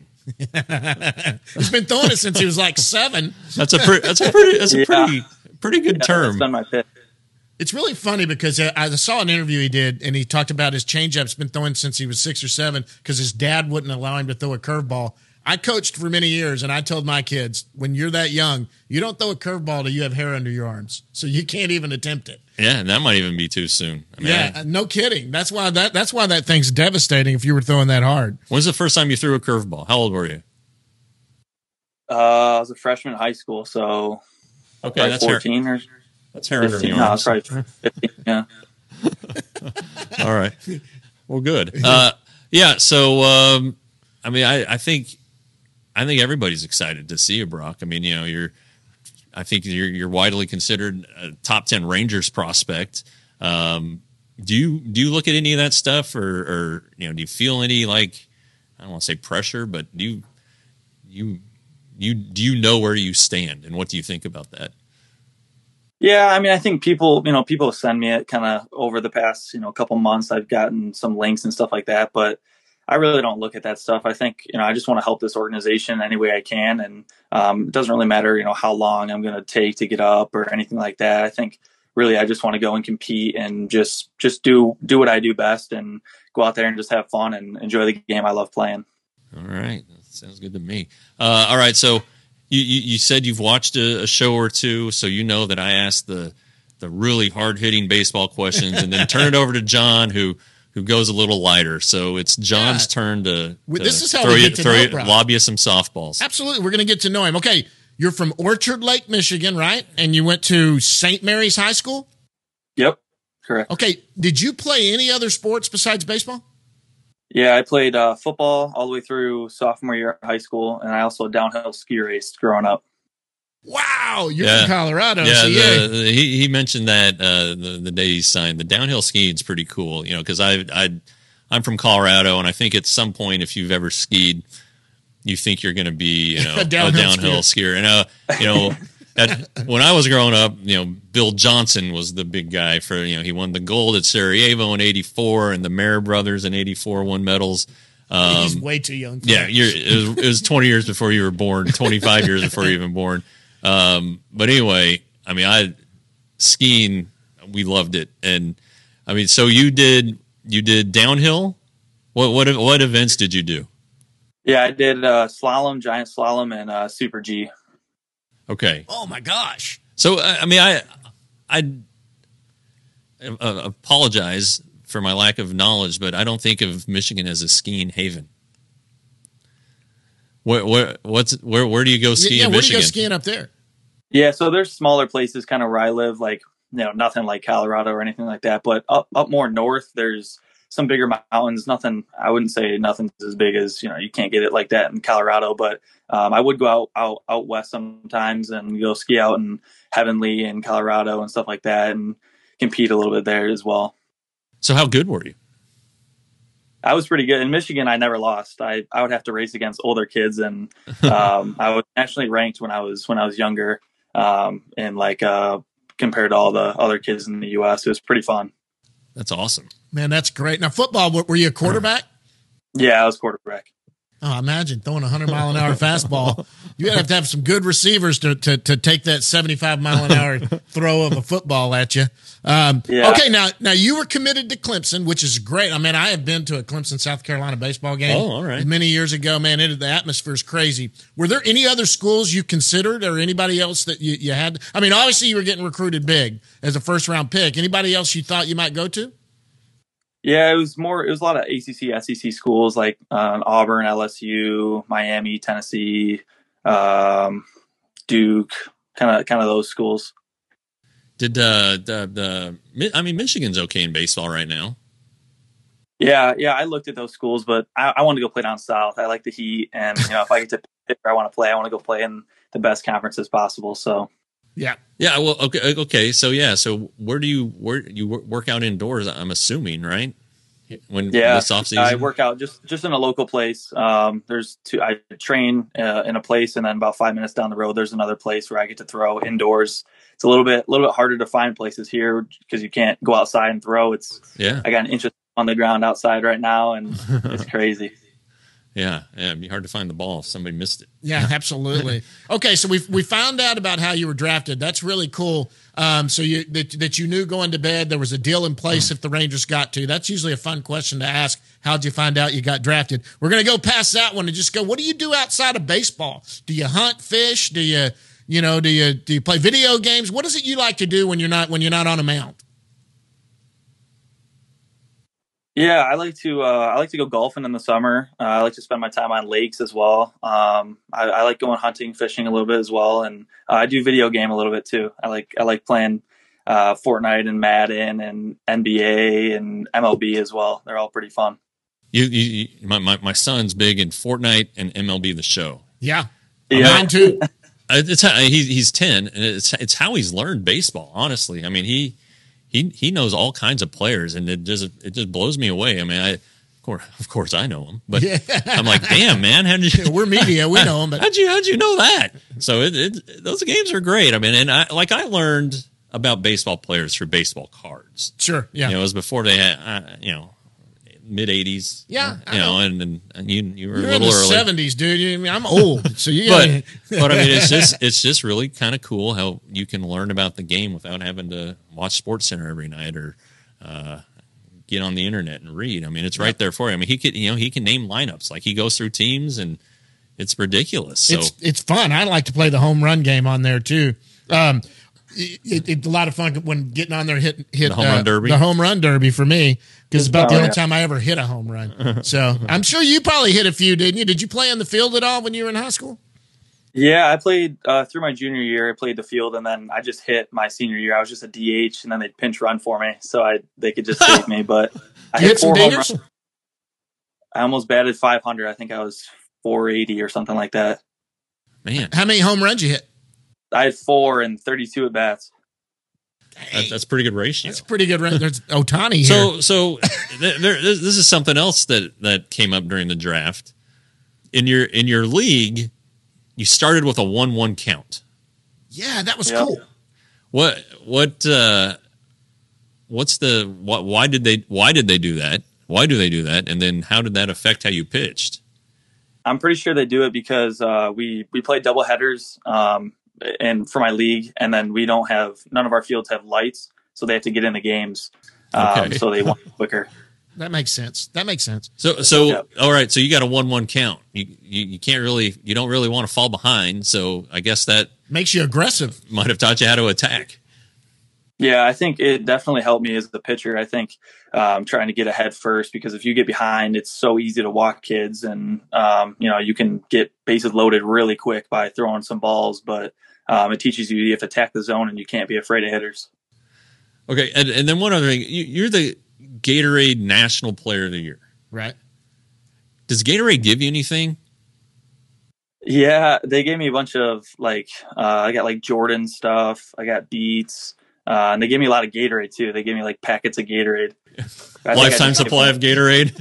Speaker 3: He's been throwing it since he was like seven.
Speaker 4: That's a pretty. That's a pretty. That's a
Speaker 6: Yeah.
Speaker 4: pretty. Pretty good
Speaker 6: Yeah,
Speaker 4: term.
Speaker 6: That's been my pick.
Speaker 3: It's really funny because uh, I saw an interview he did, and he talked about his changeup's been throwing since he was six or seven because his dad wouldn't allow him to throw a curveball. I coached for many years, and I told my kids, when you're that young, you don't throw a curveball till you have hair under your arms, so you can't even attempt it.
Speaker 4: Yeah, and that might even be too soon. I mean,
Speaker 3: Yeah,
Speaker 4: I-
Speaker 3: no kidding. That's why that that's why that thing's devastating if you were throwing that hard.
Speaker 4: when's the first time you threw a curveball? How old were you?
Speaker 6: Uh, I was a freshman in high school, so
Speaker 4: Okay,
Speaker 6: probably
Speaker 4: that's hair.
Speaker 6: fourteen or
Speaker 4: That's hair under the
Speaker 6: fifteen. No,
Speaker 4: arms.
Speaker 6: it's probably fifteen. Yeah.
Speaker 4: All right. Well, good. Uh, yeah. So, um, I mean, I, I think, I think everybody's excited to see you, Brock. I mean, you know, you're, I think you're, you're widely considered a top ten Rangers prospect. Um, do you, do you look at any of that stuff or, or, you know, do you feel any, like, I don't want to say pressure, but do you, you, you, do you know where you stand and what do you think about that?
Speaker 6: Yeah, I mean, I think people, you know, people send me it kind of over the past, you know, couple months. I've gotten some links and stuff like that, but I really don't look at that stuff. I think, you know, I just want to help this organization any way I can. And um, it doesn't really matter, you know, how long I'm going to take to get up or anything like that. I think really I just want to go and compete and just, just do, do what I do best and go out there and just have fun and enjoy the game I love playing.
Speaker 4: All right. That sounds good to me. Uh, all right. So, You, you, you said you've watched a, a show or two, so you know that I asked the the really hard hitting baseball questions, and then turn it over to John, who who goes a little lighter. So it's John's
Speaker 3: Yeah.
Speaker 4: turn to,
Speaker 3: We-
Speaker 4: to
Speaker 3: this is how
Speaker 4: throw
Speaker 3: we
Speaker 4: you,
Speaker 3: get to
Speaker 4: throw
Speaker 3: know
Speaker 4: you,
Speaker 3: Brock.
Speaker 4: lob you some softballs.
Speaker 3: Absolutely. We're going to get to know him. Okay. You're from Orchard Lake, Michigan, right? And you went to Saint Mary's High School?
Speaker 6: Yep. Correct.
Speaker 3: Okay. Did you play any other sports besides baseball?
Speaker 6: Yeah, I played uh, football all the way through sophomore year of high school, and I also downhill ski raced growing up.
Speaker 3: Wow. You're
Speaker 4: Yeah.
Speaker 3: in Colorado.
Speaker 4: Yeah,
Speaker 3: so
Speaker 4: the,
Speaker 3: yeah.
Speaker 4: the- he he mentioned that uh, the the day he signed. The downhill skiing's pretty cool, you know, because I I I'm from Colorado, and I think at some point, if you've ever skied, you think you're going to be, you know,
Speaker 3: A
Speaker 4: a
Speaker 3: downhill
Speaker 4: downhill, skier. And uh, you know, at, when I was growing up, you know, Bill Johnson was the big guy for, you know, he won the gold at Sarajevo in eighty-four, and the Mayer brothers in eighty-four won medals. Um,
Speaker 3: He's way too young. For
Speaker 4: yeah,
Speaker 3: that.
Speaker 4: you're, it, was, it was twenty years before you were born, twenty-five years before you were even born. Um, but anyway, I mean, I skiing, we loved it. And I mean, so you did, you did downhill. What, what, what events did you do?
Speaker 6: Yeah, I did uh, slalom, giant slalom, and uh, super G.
Speaker 4: Okay.
Speaker 3: Oh, my gosh.
Speaker 4: So, I I mean, I, I uh, apologize for my lack of knowledge, but I don't think of Michigan as a skiing haven. Where, where, what's, where, where do you go skiing
Speaker 3: yeah,
Speaker 4: in
Speaker 3: where do you
Speaker 4: Michigan?
Speaker 3: go skiing up there?
Speaker 6: Yeah, so there's smaller places kind of where I live, like, you know, nothing like Colorado or anything like that. But up up more north, there's some bigger mountains. Nothing, I wouldn't say nothing's as big as, you know, you can't get it like that in Colorado. But um, I would go out, out out west sometimes and go ski out in Heavenly and Colorado and stuff like that and compete a little bit there as well.
Speaker 4: So how good were you?
Speaker 6: I was pretty good. In Michigan, I never lost. I, I would have to race against older kids, and um, I was actually ranked when I was when I was younger, um, and like uh, compared to all the other kids in the U S, it was pretty fun.
Speaker 4: That's awesome.
Speaker 3: Man, that's great. Now, football, were you a quarterback?
Speaker 6: Yeah, I was quarterback.
Speaker 3: Oh, imagine throwing a hundred mile an hour fastball. You have to have some good receivers to, to, to take that seventy-five mile an hour throw of a football at you. Um,
Speaker 6: Yeah.
Speaker 3: Okay, now now you were committed to Clemson, which is great. I mean, I have been to a Clemson, South Carolina baseball game.
Speaker 4: Oh, all right.
Speaker 3: Many years ago, man. It, the atmosphere is crazy. Were there any other schools you considered, or anybody else that you, you had? I mean, obviously you were getting recruited big as a first round pick. Anybody else you thought you might go to?
Speaker 6: Yeah, it was more. It was a lot of A C C, S E C schools like uh, Auburn, L S U, Miami, Tennessee, um, Duke, kind of kind of those schools.
Speaker 4: Did uh, the the I mean Michigan's okay in baseball right now?
Speaker 6: Yeah, yeah, I looked at those schools, but I, I want to go play down south. I like the heat, and you know, if I get to pick where I want to play, I want to go play in the best conferences possible. So,
Speaker 3: Yeah.
Speaker 4: Yeah. Well, okay. Okay. So yeah. So where do you where you wor- work out indoors? I'm assuming, right? when
Speaker 6: Yeah,
Speaker 4: this off season?
Speaker 6: I work out just just in a local place. Um, there's two. I train uh, in a place, and then about five minutes down the road, there's another place where I get to throw indoors. It's a little bit a little bit harder to find places here because you can't go outside and throw. It's
Speaker 4: Yeah.
Speaker 6: I got an inch on the ground outside right now, and it's crazy.
Speaker 4: Yeah, yeah, it'd be hard to find the ball if somebody missed it.
Speaker 3: Yeah, absolutely. Okay, so we we found out about how you were drafted. That's really cool. Um, so you that, that you knew going to bed there was a deal in place if the Rangers got to. That's usually a fun question to ask. How'd you find out you got drafted? We're gonna go past that one and just go. What do you do outside of baseball? Do you hunt, fish? Do you you know do you do you play video games? What is it you like to do when you're not when you're not on a mound?
Speaker 6: Yeah, I like to uh, I like to go golfing in the summer. Uh, I like to spend my time on lakes as well. Um, I, I like going hunting, fishing a little bit as well, and uh, I do video game a little bit too. I like I like playing uh, Fortnite and Madden and N B A and M L B as well. They're all pretty fun.
Speaker 4: You, you, you my, my my son's big in Fortnite and M L B The Show.
Speaker 3: Yeah,
Speaker 6: Yeah.
Speaker 3: mine too.
Speaker 4: It's how, he, he's ten, and it's it's how he's learned baseball. Honestly, I mean he. He he knows all kinds of players, and it just it just blows me away. I mean, I of course of course I know him, but
Speaker 3: Yeah.
Speaker 4: I'm like, damn man, how did you?
Speaker 3: We're media, we know them, but
Speaker 4: how'd you how'd you know that? So it, it those games are great. I mean, and I like I learned about baseball players through baseball cards.
Speaker 3: sure, yeah.
Speaker 4: You know, it was before they had uh, you know mid eighties.
Speaker 3: Yeah, I
Speaker 4: you know,
Speaker 3: know.
Speaker 4: and, and and you you were
Speaker 3: You're
Speaker 4: a
Speaker 3: in
Speaker 4: little
Speaker 3: the
Speaker 4: early.
Speaker 3: seventies, dude. You- I mean, I'm old, so you.
Speaker 4: But but I mean, it's just it's just really kind of cool how you can learn about the game without having to watch Sports Center every night or uh, get on the internet and read. I mean, it's right there for you. I mean, he could you know he can name lineups like he goes through teams and it's ridiculous. So
Speaker 3: it's it's fun. I like to play the home run game on there too. Um, it, it's a lot of fun when getting on there hit hit
Speaker 4: The home run
Speaker 3: uh,
Speaker 4: derby?
Speaker 3: the home run derby for me because it's about the
Speaker 6: Oh,
Speaker 3: only
Speaker 6: yeah.
Speaker 3: time I ever hit a home run. So I'm sure you probably hit a few, didn't you? Did you play on the field at all when you were in high school?
Speaker 6: Yeah, I played uh, through my junior year. I played the field, and then I just hit my senior year. I was just a D H, and then they'd pinch run for me, so I they could just save me. But I
Speaker 3: You hit some
Speaker 6: four home
Speaker 3: dingers?
Speaker 6: runs. I almost batted five hundred. I think I was four eighty or something like that.
Speaker 4: man,
Speaker 3: How many home runs you hit?
Speaker 6: I had four and thirty-two at bats.
Speaker 4: that, that's a pretty good ratio.
Speaker 3: That's a pretty good run. There's Otani here.
Speaker 4: So so th- there, this this is something else that that came up during the draft. In your in your league, you started with a one one count.
Speaker 3: yeah, that was
Speaker 6: Yeah.
Speaker 3: cool.
Speaker 4: What what uh, what's the what? Why did they why did they do that? Why do they do that? And then how did that affect how you pitched?
Speaker 6: I'm pretty sure they do it because uh, we we play double headers, um, and for my league, and then we don't have none of our fields have lights, so they have to get in the games. Um,
Speaker 4: Okay.
Speaker 6: So they want it quicker.
Speaker 3: That makes sense. That makes sense.
Speaker 4: So so
Speaker 6: Yep.
Speaker 4: all right. So you got a one one count. You, you you can't really you don't really want to fall behind. So I guess that
Speaker 3: Makes you aggressive.
Speaker 4: might have taught you how to attack.
Speaker 6: Yeah, I think it definitely helped me as the pitcher. I think um, trying to get ahead first, because if you get behind, it's so easy to walk kids, and um, you know you can get bases loaded really quick by throwing some balls. But um, it teaches you you have to attack the zone, and you can't be afraid of hitters.
Speaker 4: Okay, and, and then one other thing, you, you're the Gatorade National Player of the Year.
Speaker 3: Right.
Speaker 4: Does Gatorade give you anything?
Speaker 6: Yeah, they gave me a bunch of like uh, I got like Jordan stuff. I got Beats, uh, and they gave me a lot of Gatorade too. They gave me like packets of Gatorade. I think I
Speaker 4: Lifetime
Speaker 6: just
Speaker 4: supply of Gatorade.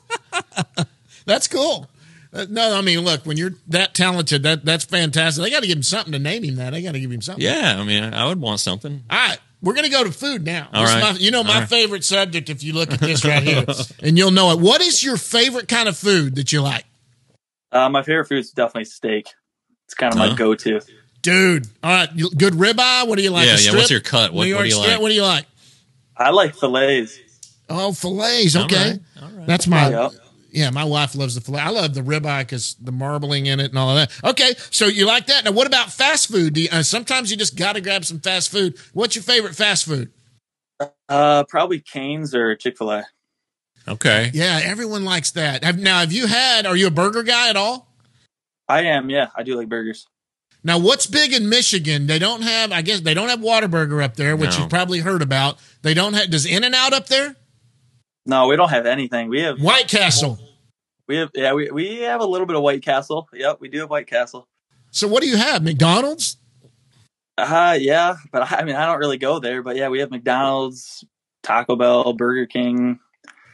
Speaker 3: That's cool. Uh, no, I mean, look, when you're that talented, that that's fantastic. They got to give him something to name him that. They got to give him something.
Speaker 4: Yeah, I mean, I would want something.
Speaker 3: All right. We're going to go to food now.
Speaker 4: All
Speaker 3: This is
Speaker 4: right.
Speaker 3: my- you know, my
Speaker 4: All right.
Speaker 3: favorite subject, if you look at this right here, and you'll know it. What is your favorite kind of food that you like?
Speaker 6: Uh, my favorite food is definitely steak. It's kind of
Speaker 4: Huh?
Speaker 6: my go-to.
Speaker 3: Dude. All right. you- Good ribeye. What do you like?
Speaker 4: Yeah,
Speaker 3: A
Speaker 4: yeah,
Speaker 3: strip?
Speaker 4: what's your cut? What-
Speaker 3: New
Speaker 4: what
Speaker 3: York
Speaker 4: do you
Speaker 3: strip?
Speaker 4: like?
Speaker 3: What do you like?
Speaker 6: I like fillets.
Speaker 3: Oh, fillets.
Speaker 4: All
Speaker 3: Okay.
Speaker 4: right, all right.
Speaker 3: That's my,
Speaker 6: Yep.
Speaker 3: yeah, my wife loves the fillet. I love the ribeye because the marbling in it and all of that. Okay. So you like that. Now, what about fast food? Do you, uh, sometimes you just got to grab some fast food. What's your favorite fast food?
Speaker 6: Uh, probably Cane's or Chick-fil-A.
Speaker 4: Okay.
Speaker 3: Yeah, everyone likes that. Have, now, have you had, are you a burger guy at all?
Speaker 6: I am, yeah. I do like burgers.
Speaker 3: Now, what's big in Michigan? They don't have, I guess, they don't have Whataburger up there, which
Speaker 4: No.
Speaker 3: you've probably heard about. They don't have, does In-N-Out up there?
Speaker 6: No, we don't have anything. We have,
Speaker 3: White Castle.
Speaker 6: we have, yeah, we, we have a little bit of White Castle. Yep, we do have White Castle.
Speaker 3: So what do you have? McDonald's?
Speaker 6: Uh, yeah, but I, I mean, I don't really go there. But yeah, we have McDonald's, Taco Bell, Burger King.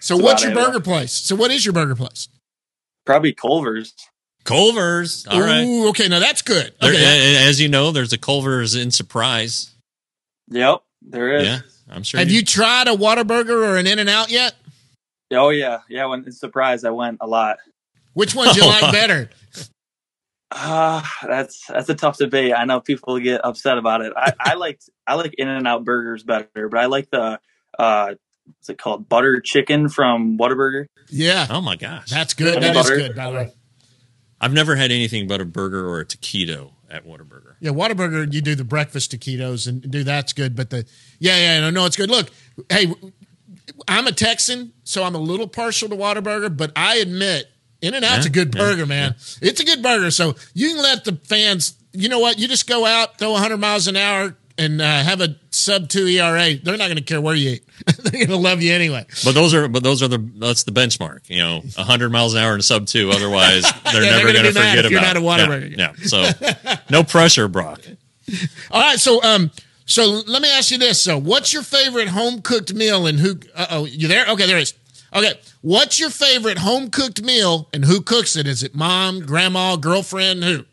Speaker 3: So
Speaker 6: That's
Speaker 3: what's your
Speaker 6: about it.
Speaker 3: burger place? So what is your burger place?
Speaker 6: Probably Culver's.
Speaker 4: Culver's. All right.
Speaker 3: Ooh, okay, now that's good.
Speaker 4: There,
Speaker 3: Okay.
Speaker 4: a- as you know, there's a Culver's in Surprise.
Speaker 6: Yep, there is.
Speaker 4: Yeah, I'm sure.
Speaker 3: Have you tried a Whataburger or an In-N-Out yet?
Speaker 6: Oh yeah, yeah. When it's surprised, I went a lot.
Speaker 3: Which one do you
Speaker 4: Oh,
Speaker 3: like
Speaker 4: wow.
Speaker 3: better?
Speaker 6: Ah, that's that's a tough debate. I know people get upset about it. I, I like I like In-N-Out burgers better, but I like the uh, what's it called, butter chicken from Whataburger.
Speaker 3: Yeah,
Speaker 4: Oh my gosh,
Speaker 3: that's good.
Speaker 6: Honey
Speaker 3: That is
Speaker 6: butter.
Speaker 3: good, by the way.
Speaker 4: I've never had anything but a burger or a taquito at Whataburger.
Speaker 3: Yeah, Whataburger, you do the breakfast taquitos and do that's good. But the yeah, yeah, no, no, it's good. Look, hey, I'm a Texan, so I'm a little partial to Whataburger, but I admit In-N-Out's
Speaker 4: Yeah,
Speaker 3: a good
Speaker 4: yeah,
Speaker 3: burger, man. It's a good burger. So you can let the fans, you know what? You just go out, throw one hundred miles an hour, and uh, have a sub two E R A. They're not going to care where you eat. They're going to love you anyway.
Speaker 4: But those are, but those are the that's the benchmark. You know, one hundred miles an hour and a sub two. Otherwise, they're
Speaker 3: Yeah, they're
Speaker 4: never
Speaker 3: gonna
Speaker 4: going to
Speaker 3: be mad
Speaker 4: forget
Speaker 3: if you're
Speaker 4: about.
Speaker 3: not a
Speaker 4: it.
Speaker 3: Whataburger.
Speaker 4: Yeah, yeah. So no pressure, Brock.
Speaker 3: All right, so um, so let me ask you this. So, what's your favorite home cooked meal, and who? Uh oh, you there? Okay, there it is. Okay, what's your favorite home cooked meal, and who cooks it? Is it mom, grandma, girlfriend? Who?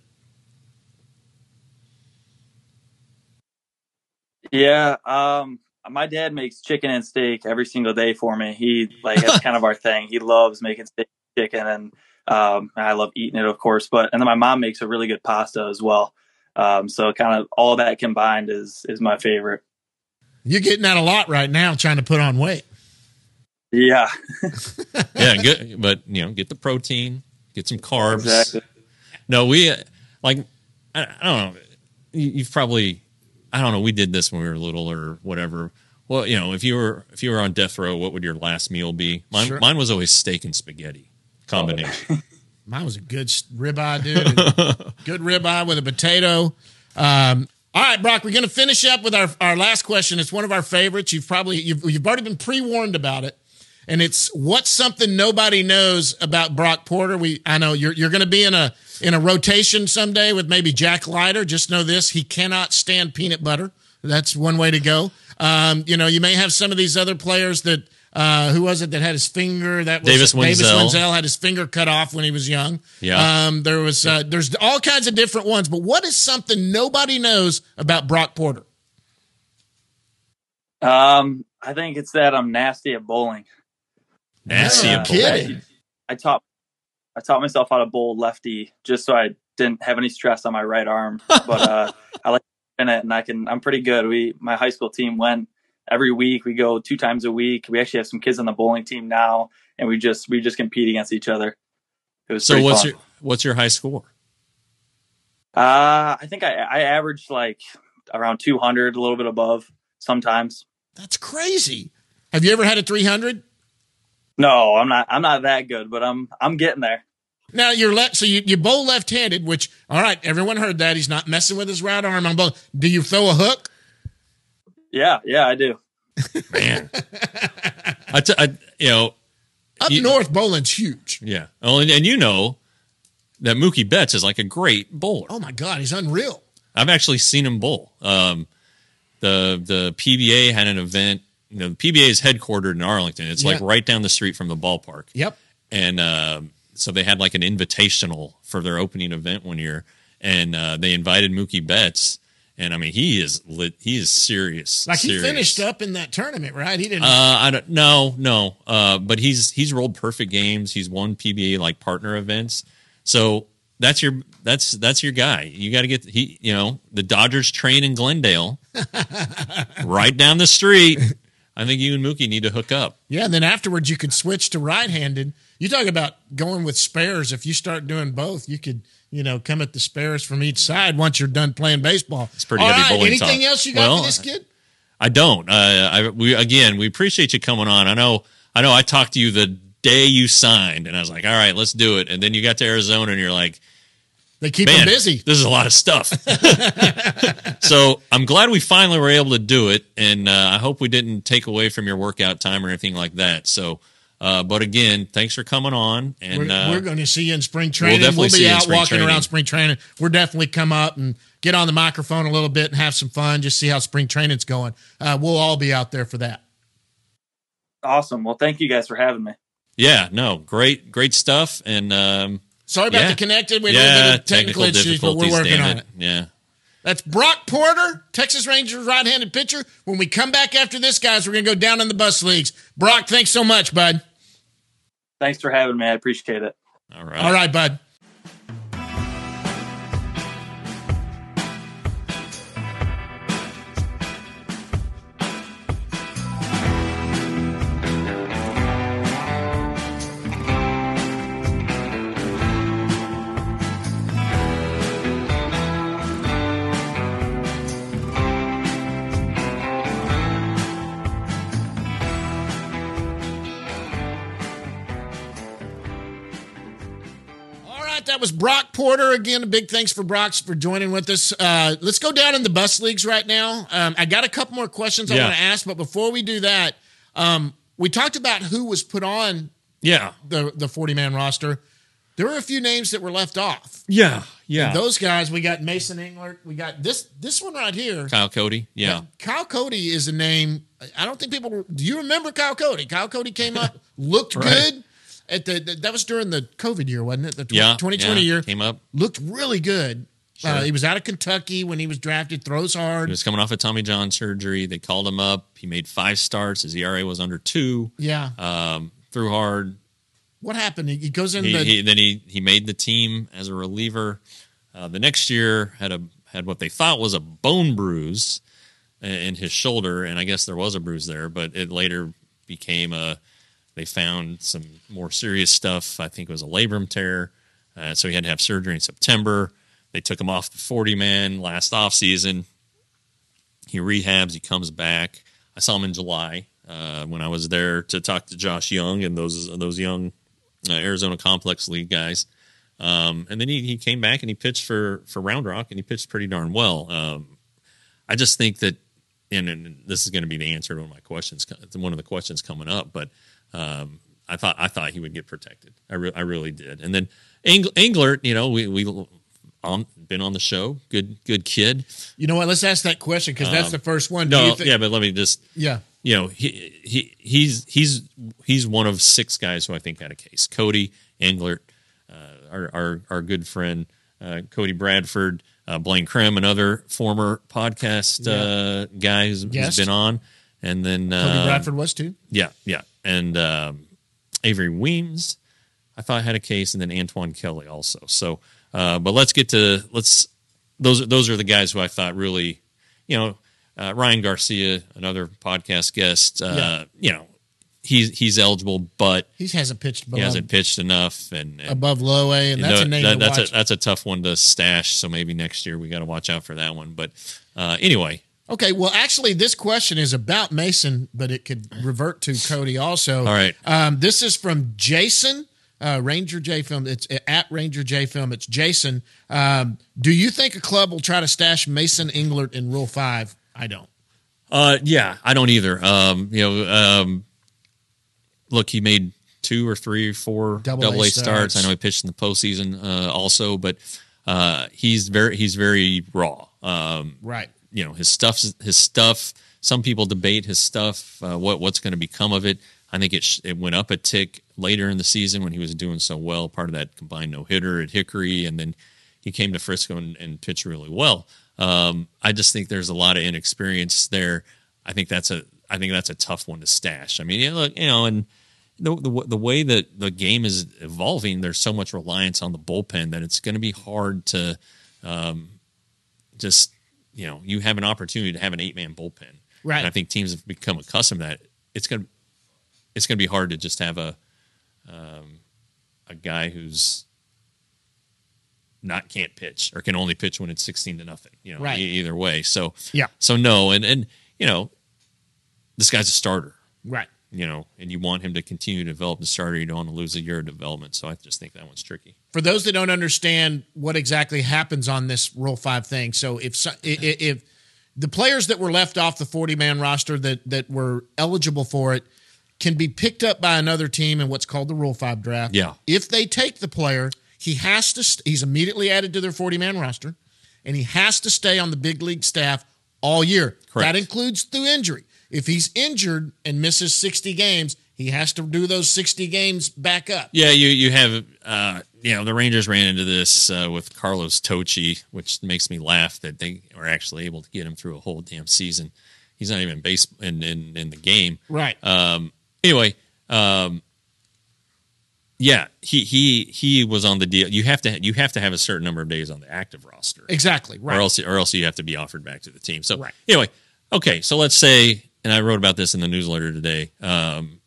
Speaker 6: Yeah, um, my dad makes chicken and steak every single day for me. He like that's kind of our thing. He loves making steak, chicken, and um, I love eating it, of course. But and then my mom makes a really good pasta as well. Um, so kind of all that combined is is my favorite.
Speaker 3: You're getting out a lot right now, trying to put on weight.
Speaker 6: Yeah,
Speaker 4: Yeah, good. But you know, get the protein, get some carbs.
Speaker 6: exactly.
Speaker 4: No, we uh, like I, I don't know. You, you've probably I don't know. We did this when we were little or whatever. Well, you know, if you were if you were on death row, what would your last meal be? Mine,
Speaker 3: Sure.
Speaker 4: mine was always steak and spaghetti combination.
Speaker 3: Mine was a good s- ribeye, dude. Good ribeye with a potato. Um, all right, Brock, we're going to finish up with our, our last question. It's one of our favorites. You've probably you've, you've already been pre-warned about it, and it's what's something nobody knows about Brock Porter. We I know you're you're going to be in a in a rotation someday with maybe Jack Leiter. Just know this: he cannot stand peanut butter. That's one way to go. Um, you know, you may have some of these other players that. Uh, who was it that had his finger? That was
Speaker 4: Davis
Speaker 3: Davis
Speaker 4: Wenzel.
Speaker 3: Wenzel had his finger cut off when he was young.
Speaker 4: Yeah.
Speaker 3: Um, there was uh, there's all kinds of different ones, but what is something nobody knows about Brock Porter?
Speaker 6: Um, I think it's that I'm nasty at bowling.
Speaker 4: Nasty
Speaker 3: Yeah,
Speaker 4: and
Speaker 3: kidding.
Speaker 6: I taught I taught myself how to bowl lefty just so I didn't have any stress on my right arm. But uh, I like in it, and I can. I'm pretty good. We my high school team went every week. We go two times a week. We actually have some kids on the bowling team now, and we just we just compete against each other. It was
Speaker 4: So
Speaker 6: pretty
Speaker 4: what's
Speaker 6: fun.
Speaker 4: your what's your high score?
Speaker 6: Uh, I think I I averaged like around two hundred, a little bit above sometimes.
Speaker 3: That's crazy. Have you ever had a three hundred?
Speaker 6: No, I'm not. I'm not that good, but I'm I'm getting there.
Speaker 3: Now you're left, so you, you bowl left-handed, which all right, everyone heard that he's not messing with his right arm on bowl. Do you throw a hook?
Speaker 6: Yeah, yeah, I do.
Speaker 4: Man, I, t- I you know
Speaker 3: Up
Speaker 4: You-
Speaker 3: north, bowling's huge.
Speaker 4: yeah. Oh, and, and you know that Mookie Betts is like a great bowler.
Speaker 3: Oh my God, he's unreal.
Speaker 4: I've actually seen him bowl. Um, the the P B A had an event. You know, the P B A is headquartered in Arlington. It's like
Speaker 3: Yeah.
Speaker 4: right down the street from the ballpark.
Speaker 3: Yep.
Speaker 4: And uh, so they had like an invitational for their opening event one year, and uh, they invited Mookie Betts. And I mean, he is lit. He is serious.
Speaker 3: Like he
Speaker 4: serious.
Speaker 3: finished up in that tournament, right? He didn't.
Speaker 4: Uh, I don't no no. Uh, but he's he's rolled perfect games. He's won P B A like partner events. So that's your that's that's your guy. You got to get he. You know, the Dodgers train in Glendale, right down the street. I think you and Mookie need to hook up.
Speaker 3: Yeah, and then afterwards you could switch to right-handed. You talk about going with spares. If you start doing both, you could, you know, come at the spares from each side once you're done playing baseball. It's
Speaker 4: pretty
Speaker 3: All
Speaker 4: heavy
Speaker 3: right,
Speaker 4: bowling
Speaker 3: anything
Speaker 4: talk.
Speaker 3: else you got
Speaker 4: Well,
Speaker 3: for this kid?
Speaker 4: I don't. Uh, I we again we appreciate you coming on. I know I know I talked to you the day you signed, and I was like, all right, let's do it. And then you got to Arizona, and you're like,
Speaker 3: They keep
Speaker 4: man,
Speaker 3: him busy.
Speaker 4: this is a lot of stuff. So I'm glad we finally were able to do it, and uh, I hope we didn't take away from your workout time or anything like that. So, uh, but again, thanks for coming on, and
Speaker 3: We're,
Speaker 4: uh,
Speaker 3: we're going to see you in spring training. We'll,
Speaker 4: definitely see
Speaker 3: be
Speaker 4: you in
Speaker 3: out
Speaker 4: spring
Speaker 3: walking
Speaker 4: training.
Speaker 3: around spring training. We're definitely come up and get on the microphone a little bit and have some fun. Just see how spring training's going. Uh, we'll all be out there for that.
Speaker 6: Awesome. Well, thank you guys for having me.
Speaker 4: Yeah, no, great, great stuff. And um,
Speaker 3: sorry about
Speaker 4: yeah.
Speaker 3: the connected. We
Speaker 4: yeah,
Speaker 3: had a little bit of
Speaker 4: technical,
Speaker 3: technical issues, but we're working on it.
Speaker 4: it. Yeah.
Speaker 3: That's Brock Porter, Texas Rangers right-handed pitcher. When we come back after this, guys, we're going to go down in the bus leagues. Brock, thanks so much, bud.
Speaker 6: Thanks for having me. I appreciate it.
Speaker 4: All right.
Speaker 3: All right, bud. That was Brock Porter. Again, a big thanks for Brock for joining with us. Uh, let's go down in the bus leagues right now. Um, I got a couple more questions I
Speaker 4: Yeah.
Speaker 3: want to ask, but before we do that, um, we talked about who was put on
Speaker 4: Yeah.
Speaker 3: the the forty-man roster. There were a few names that were left off.
Speaker 4: Yeah. Yeah.
Speaker 3: And those guys, we got Mason Englert. We got this this one right here.
Speaker 4: Kyle Cody. Yeah.
Speaker 3: Kyle Cody is a name. I don't think people. Do you remember Kyle Cody? Kyle Cody came up, looked
Speaker 4: Right.
Speaker 3: good. At the, the that was during the COVID year, wasn't it? The tw-
Speaker 4: Yeah.
Speaker 3: twenty twenty
Speaker 4: yeah.
Speaker 3: year
Speaker 4: Came up.
Speaker 3: looked really good.
Speaker 4: Sure.
Speaker 3: Uh, he was out of Kentucky when he was drafted. Throws hard.
Speaker 4: He was coming off of Tommy John surgery. They called him up. He made five starts. His E R A was under two.
Speaker 3: Yeah.
Speaker 4: Um, threw hard.
Speaker 3: What happened? He, he goes in
Speaker 4: He,
Speaker 3: the.
Speaker 4: he, then he he made the team as a reliever. Uh, the next year had a had what they thought was a bone bruise in his shoulder, and I guess there was a bruise there, but it later became a. They found some more serious stuff. I think it was a labrum tear, uh, so he had to have surgery in September. They took him off the forty-man last offseason. He rehabs. He comes back. I saw him in July uh, when I was there to talk to Josh Young and those those young uh, Arizona Complex League guys. Um, and then he, he came back and he pitched for, for Round Rock, and he pitched pretty darn well. Um, I just think that, and, and this is going to be the answer to one of my questions, one of the questions coming up, but um, I thought I thought he would get protected. I, re- I really did. And then Eng- Englert, you know, we we on, been on the show, good good kid.
Speaker 3: You know what? Let's ask that question because that's
Speaker 4: Um,
Speaker 3: the first one. Do
Speaker 4: No,
Speaker 3: you thi-
Speaker 4: yeah, but let me just
Speaker 3: yeah.
Speaker 4: you know, he, he he's he's he's one of six guys who I think had a case. Cody Englert, uh, our, our our good friend uh, Cody Bradford, uh, Blaine Krim, another former podcast uh, guy who's, who's
Speaker 3: Guest.
Speaker 4: been on, and then
Speaker 3: Cody
Speaker 4: uh,
Speaker 3: Bradford was too.
Speaker 4: yeah, yeah, and um, Avery Weems, I thought had a case, and then Antoine Kelly also. So, uh, but let's get to let's those those are the guys who I thought really, you know. Uh, Ryan Garcia, another podcast guest, uh,
Speaker 3: Yeah.
Speaker 4: you know, he's he's eligible, but
Speaker 3: He hasn't pitched
Speaker 4: he
Speaker 3: above,
Speaker 4: hasn't pitched enough, and, and
Speaker 3: above low A, and
Speaker 4: you
Speaker 3: that's
Speaker 4: know,
Speaker 3: a name
Speaker 4: that-
Speaker 3: to
Speaker 4: that's
Speaker 3: watch.
Speaker 4: a that's a tough one to stash. So maybe next year we got to watch out for that one. But uh, anyway,
Speaker 3: Okay, well, actually, this question is about Mason, but it could revert to Cody also.
Speaker 4: All right.
Speaker 3: Um, this is from Jason, uh, Ranger J Film. It's at Ranger J Film. It's Jason. Um, do you think a club will try to stash Mason Englert in Rule Five? I don't.
Speaker 4: uh, yeah, I don't either. Um, you know, um, look, he made two or three or four
Speaker 3: Double
Speaker 4: double
Speaker 3: A
Speaker 4: A starts.
Speaker 3: starts.
Speaker 4: I know he pitched in the postseason uh, also, but uh, he's very he's very raw. Um,
Speaker 3: Right.
Speaker 4: you know, his stuff's his stuff. Some people debate his stuff, uh, what what's going to become of it. I think it sh- it went up a tick later in the season when he was doing so well, part of that combined no hitter at Hickory, and then he came to Frisco and, and pitched really well. Um, I just think there's a lot of inexperience there. I think that's a I think that's a tough one to stash. I mean, you know, look, you know, and the, the the way that the game is evolving, there's so much reliance on the bullpen that it's going to be hard to um, just. You know, you have an opportunity to have an eight-man bullpen,
Speaker 3: Right.
Speaker 4: And I think teams have become accustomed to that. It's gonna, it's gonna be hard to just have a, um, a guy who's not can't pitch or can only pitch when it's sixteen to nothing. You know,
Speaker 3: Right.
Speaker 4: e- either way. So
Speaker 3: Yeah.
Speaker 4: so no, and and you know, this guy's a starter.
Speaker 3: Right.
Speaker 4: You know, and you want him to continue to develop the starter. You don't want to lose a year of development. So I just think that one's tricky.
Speaker 3: For those that don't understand what exactly happens on this Rule Five thing, so if so- i- i- if the players that were left off the forty-man roster that that were eligible for it can be picked up by another team in what's called the Rule Five draft.
Speaker 4: Yeah.
Speaker 3: If they take the player, he has to. St- he's immediately added to their forty-man roster, and he has to stay on the big league staff all year.
Speaker 4: Correct.
Speaker 3: That includes through injury. if he's injured and misses sixty games, he has to do those sixty games back up.
Speaker 4: Yeah, you you have uh, you know the Rangers ran into this uh, with Carlos Tocci, which makes me laugh that they were actually able to get him through a whole damn season. He's not even base in in, in the game,
Speaker 3: right?
Speaker 4: Um, anyway, um, yeah, he he he was on the deal. You have to you have to have a certain number of days on the active roster,
Speaker 3: exactly, right?
Speaker 4: Or else or else you have to be offered back to the team. So
Speaker 3: right.
Speaker 4: anyway, okay, so let's say, and I wrote about this in the newsletter today. Um,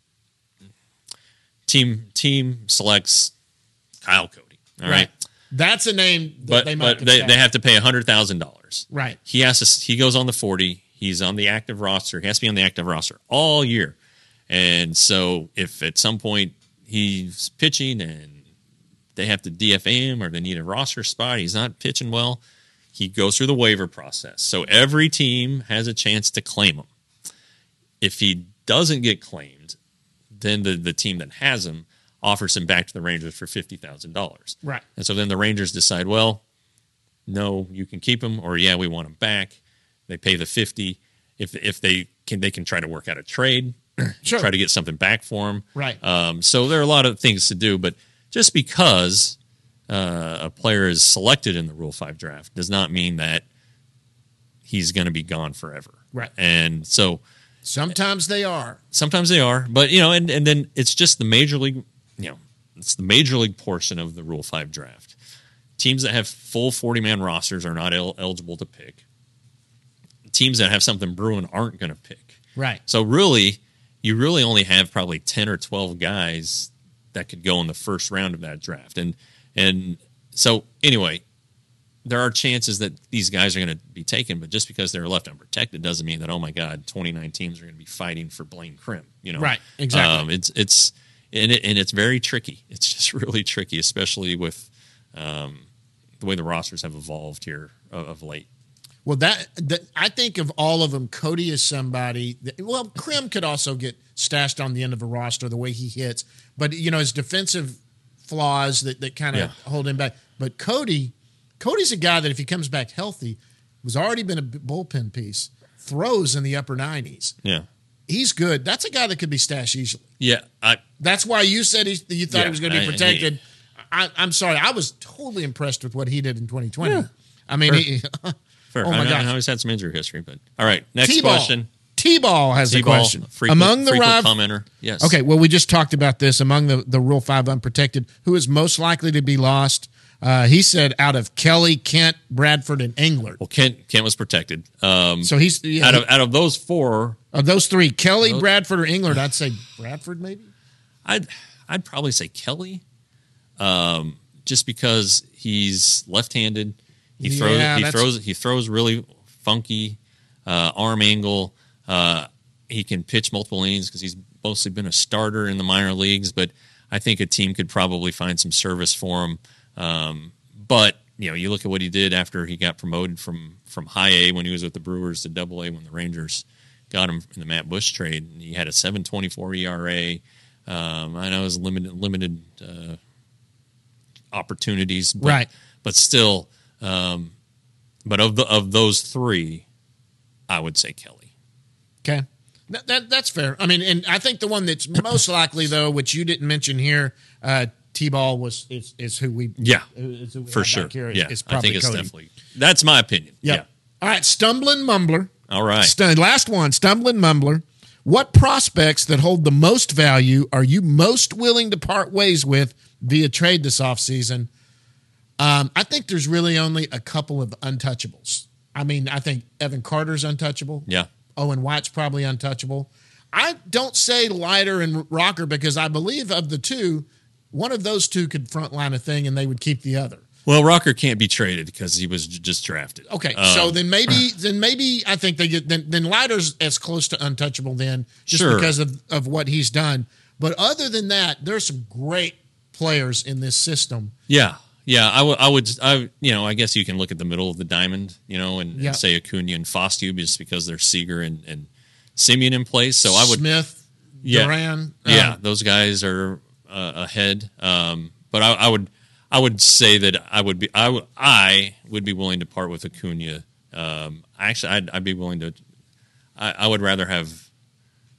Speaker 4: team team selects Kyle Cody. All right. right.
Speaker 3: That's a name that
Speaker 4: but,
Speaker 3: they might
Speaker 4: But they, they have to pay one hundred thousand dollars.
Speaker 3: Right.
Speaker 4: He has to, he goes on the forty. He's on the active roster. He has to be on the active roster all year. And so if at some point he's pitching and they have to D F A him or they need a roster spot, he's not pitching well, he goes through the waiver process. So every team has a chance to claim him. If he doesn't get claimed, then the, the team that has him offers him back to the Rangers for fifty thousand dollars.
Speaker 3: Right.
Speaker 4: And so then the Rangers decide, well, no, you can keep him, or yeah, we want him back. They pay the fifty. If if they can, they can try to work out a trade,
Speaker 3: sure.
Speaker 4: try to get something back for him.
Speaker 3: Right.
Speaker 4: Um, so there are a lot of things to do, but just because uh, a player is selected in the Rule Five draft does not mean that he's going to be gone forever.
Speaker 3: Right.
Speaker 4: And so
Speaker 3: sometimes they are.
Speaker 4: Sometimes they are, but you know, and, and then it's just the major league. You know, it's the major league portion of the Rule Five draft. Teams that have full forty-man rosters are not el- eligible to pick. Teams that have something brewing aren't going to pick.
Speaker 3: Right.
Speaker 4: So really, you really only have probably ten or twelve guys that could go in the first round of that draft. And and so anyway, there are chances that these guys are going to be taken, but just because they're left unprotected doesn't mean that, oh my God, twenty-nine teams are going to be fighting for Blaine Crim. You know,
Speaker 3: right? Exactly.
Speaker 4: Um, it's it's and it and it's very tricky. It's just really tricky, especially with um, the way the rosters have evolved here of, of late.
Speaker 3: Well, that, that I think of all of them, Cody is somebody that, well, Crim could also get stashed on the end of a roster the way he hits, but you know his defensive flaws that, that kind of
Speaker 4: Yeah.
Speaker 3: hold him back. But Cody, Cody's a guy that if he comes back healthy, was already been a bullpen piece, throws in the upper nineties.
Speaker 4: Yeah,
Speaker 3: he's good. That's a guy that could be stashed easily.
Speaker 4: yeah. I
Speaker 3: That's why you said he, you thought
Speaker 4: Yeah,
Speaker 3: he was going to be
Speaker 4: I-
Speaker 3: protected. I, I'm sorry, I was totally impressed with what he did in twenty twenty.
Speaker 4: Yeah.
Speaker 3: I mean,
Speaker 4: Sure.
Speaker 3: he,
Speaker 4: fair.
Speaker 3: oh my
Speaker 4: I,
Speaker 3: gosh.
Speaker 4: I always had some injury history, but all right. Next
Speaker 3: T-ball.
Speaker 4: question.
Speaker 3: T-ball has a
Speaker 4: T-ball,
Speaker 3: question.
Speaker 4: frequent,
Speaker 3: Among the
Speaker 4: frequent
Speaker 3: rival,
Speaker 4: commenter. Yes.
Speaker 3: okay, well, we just talked about this. Among the, the Rule five unprotected, who is most likely to be lost? Uh, he said out of Kelly, Kent, Bradford, and Englert.
Speaker 4: Well, Kent Kent was protected. Um,
Speaker 3: So he's yeah,
Speaker 4: out of out of those four,
Speaker 3: of those three, Kelly,
Speaker 4: Those-
Speaker 3: Bradford, or Englert. I'd say Bradford, maybe.
Speaker 4: I'd I'd probably say Kelly, um, just because he's left-handed. He
Speaker 3: Yeah,
Speaker 4: throws he
Speaker 3: that's-
Speaker 4: throws he throws really funky uh, arm angle. Uh, he can pitch multiple innings because he's mostly been a starter in the minor leagues. But I think a team could probably find some service for him. Um, but you know, you look at what he did after he got promoted from from High A when he was with the Brewers to Double A when the Rangers got him in the Matt Bush trade. He had a seven twenty-four E R A. Um, I know it was limited limited uh, opportunities, but,
Speaker 3: Right.
Speaker 4: But still, um, but of the of those three, I would say Kelly.
Speaker 3: Okay. That, that That's fair. I mean, and I think the one that's most likely, though, which you didn't mention here, uh, T-ball was is, is who we
Speaker 4: Yeah,
Speaker 3: is who we
Speaker 4: for
Speaker 3: have
Speaker 4: sure.
Speaker 3: back here.
Speaker 4: Yeah,
Speaker 3: Is
Speaker 4: I
Speaker 3: probably
Speaker 4: think it's
Speaker 3: Cody.
Speaker 4: definitely that's my opinion.
Speaker 3: Yep.
Speaker 4: Yeah.
Speaker 3: All right, stumbling mumbler.
Speaker 4: All right.
Speaker 3: St- last one, stumbling mumbler. What prospects that hold the most value are you most willing to part ways with via trade this offseason? Um, I think there's really only a couple of untouchables. I mean, I think Evan Carter's untouchable.
Speaker 4: Yeah.
Speaker 3: Owen White's probably untouchable. I don't say Leiter and Rocker because I believe of the two, one of those two could frontline a thing and they would keep the other.
Speaker 4: Well, Rocker can't be traded because he was j- just drafted.
Speaker 3: Okay,
Speaker 4: Um,
Speaker 3: so then maybe then maybe I think they get then then Leiter's as close to untouchable then just
Speaker 4: Sure.
Speaker 3: because of, of what he's done. But other than that, there's some great players in this system.
Speaker 4: Yeah, yeah. I would, I would, I, you know, I guess you can look at the middle of the diamond, you know, and,
Speaker 3: Yeah.
Speaker 4: and say Acuna and Fostu just because there's Seager and, and Simeon in place. So I would,
Speaker 3: Smith,
Speaker 4: yeah,
Speaker 3: Duran,
Speaker 4: yeah,
Speaker 3: um,
Speaker 4: those guys are uh, ahead. Um, but I, I would, I would say that I would be, I would, I would be willing to part with Acuna. Um, actually, I'd, I'd be willing to. I, I would rather have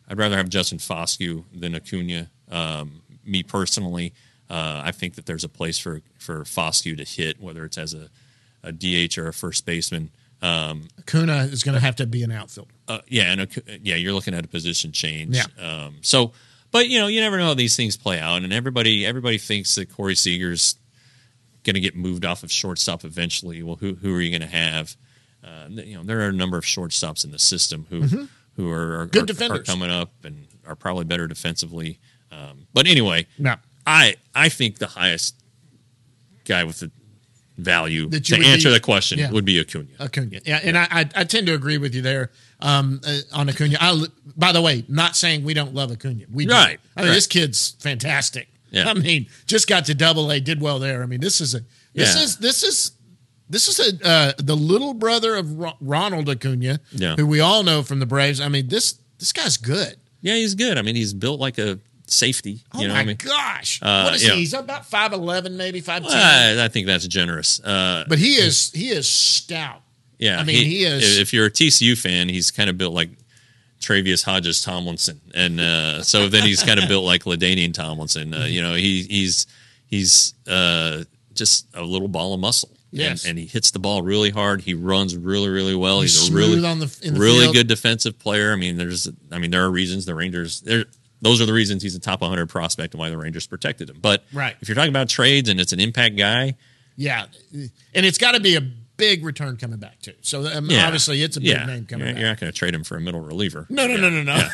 Speaker 4: I'd rather have Justin Foscue than Acuna. Um, me personally, uh, I think that there's a place for for Foscue to hit, whether it's as a, a D H or a first baseman. Um,
Speaker 3: Acuna is going to have to be an outfielder.
Speaker 4: Uh, yeah, and Acu- yeah, you're looking at a position change.
Speaker 3: Yeah.
Speaker 4: Um, so, but you know, you never know how these things play out, and everybody everybody thinks that Corey Seager's going to get moved off of shortstop eventually. Well, who who are you going to have? Uh, you know, there are a number of shortstops in the system who
Speaker 3: Mm-hmm.
Speaker 4: who are, are,
Speaker 3: Good
Speaker 4: are,
Speaker 3: defenders.
Speaker 4: are coming up and are probably better defensively. Um, but anyway,
Speaker 3: No.
Speaker 4: I I think the highest guy with the value
Speaker 3: That you
Speaker 4: to
Speaker 3: would
Speaker 4: answer
Speaker 3: be-
Speaker 4: the question
Speaker 3: yeah.
Speaker 4: would be Acuna.
Speaker 3: Acuna. Yeah, and I, I I tend to agree with you there um, uh, on Acuna. I, by the way, not saying we don't love Acuna. We do.
Speaker 4: Right,
Speaker 3: I mean,
Speaker 4: right.
Speaker 3: this kid's fantastic.
Speaker 4: Yeah.
Speaker 3: I mean, just got to Double A, did well there. I mean, this is a this
Speaker 4: Yeah.
Speaker 3: is this is this is a uh, the little brother of Ro- Ronald Acuna,
Speaker 4: Yeah.
Speaker 3: who we all know from the Braves. I mean, this this guy's good.
Speaker 4: Yeah, he's good. I mean, he's built like a safety.
Speaker 3: Oh
Speaker 4: you know
Speaker 3: my
Speaker 4: what I mean?
Speaker 3: gosh,
Speaker 4: Uh,
Speaker 3: what is
Speaker 4: yeah.
Speaker 3: he? He's about five eleven, maybe five ten.
Speaker 4: Well, I, I think that's generous. Uh,
Speaker 3: But he is he is stout.
Speaker 4: yeah,
Speaker 3: I mean, he is-
Speaker 4: If you're a T C U fan, he's kind of built like Travius Hodges Tomlinson, and uh, so then he's kind of built like LaDainian Tomlinson. Uh, you know, he he's he's uh, just a little ball of muscle.
Speaker 3: Yes.
Speaker 4: and, and he hits the ball really hard. He runs really, really well.
Speaker 3: He's
Speaker 4: He's, a
Speaker 3: smooth
Speaker 4: really,
Speaker 3: on the- in the
Speaker 4: really
Speaker 3: field.
Speaker 4: good defensive player. I mean, there's, I mean, there are reasons the Rangers. There, those are the reasons he's a top one hundred prospect and why the Rangers protected him. But
Speaker 3: Right.
Speaker 4: if you're talking about trades and it's an impact guy,
Speaker 3: Yeah, and it's got to be a big return coming back too. So um,
Speaker 4: yeah,
Speaker 3: obviously, it's a big
Speaker 4: yeah,
Speaker 3: name coming
Speaker 4: You're,
Speaker 3: back.
Speaker 4: you're not going to trade him for a middle reliever.
Speaker 3: No, no,
Speaker 4: Yeah.
Speaker 3: no, no, no.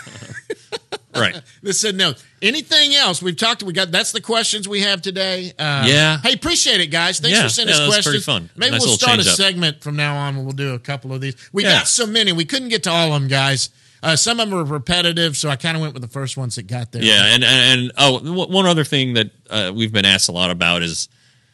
Speaker 4: Right.
Speaker 3: This said no. Anything else? We've talked. We got. That's the questions we have today. Uh,
Speaker 4: Yeah.
Speaker 3: Hey, appreciate it, guys. Thanks
Speaker 4: Yeah,
Speaker 3: for sending
Speaker 4: yeah,
Speaker 3: us
Speaker 4: that's
Speaker 3: questions.
Speaker 4: pretty fun.
Speaker 3: Maybe
Speaker 4: Nice
Speaker 3: we'll
Speaker 4: little
Speaker 3: start a
Speaker 4: change up.
Speaker 3: segment from now on. We'll do a couple of these. We
Speaker 4: Yeah.
Speaker 3: got so many. We couldn't get to all of them, guys. Uh, some of them were repetitive, so I kind of went with the first ones that got there.
Speaker 4: Yeah, and and, and oh, w- one other thing that uh, we've been asked a lot about is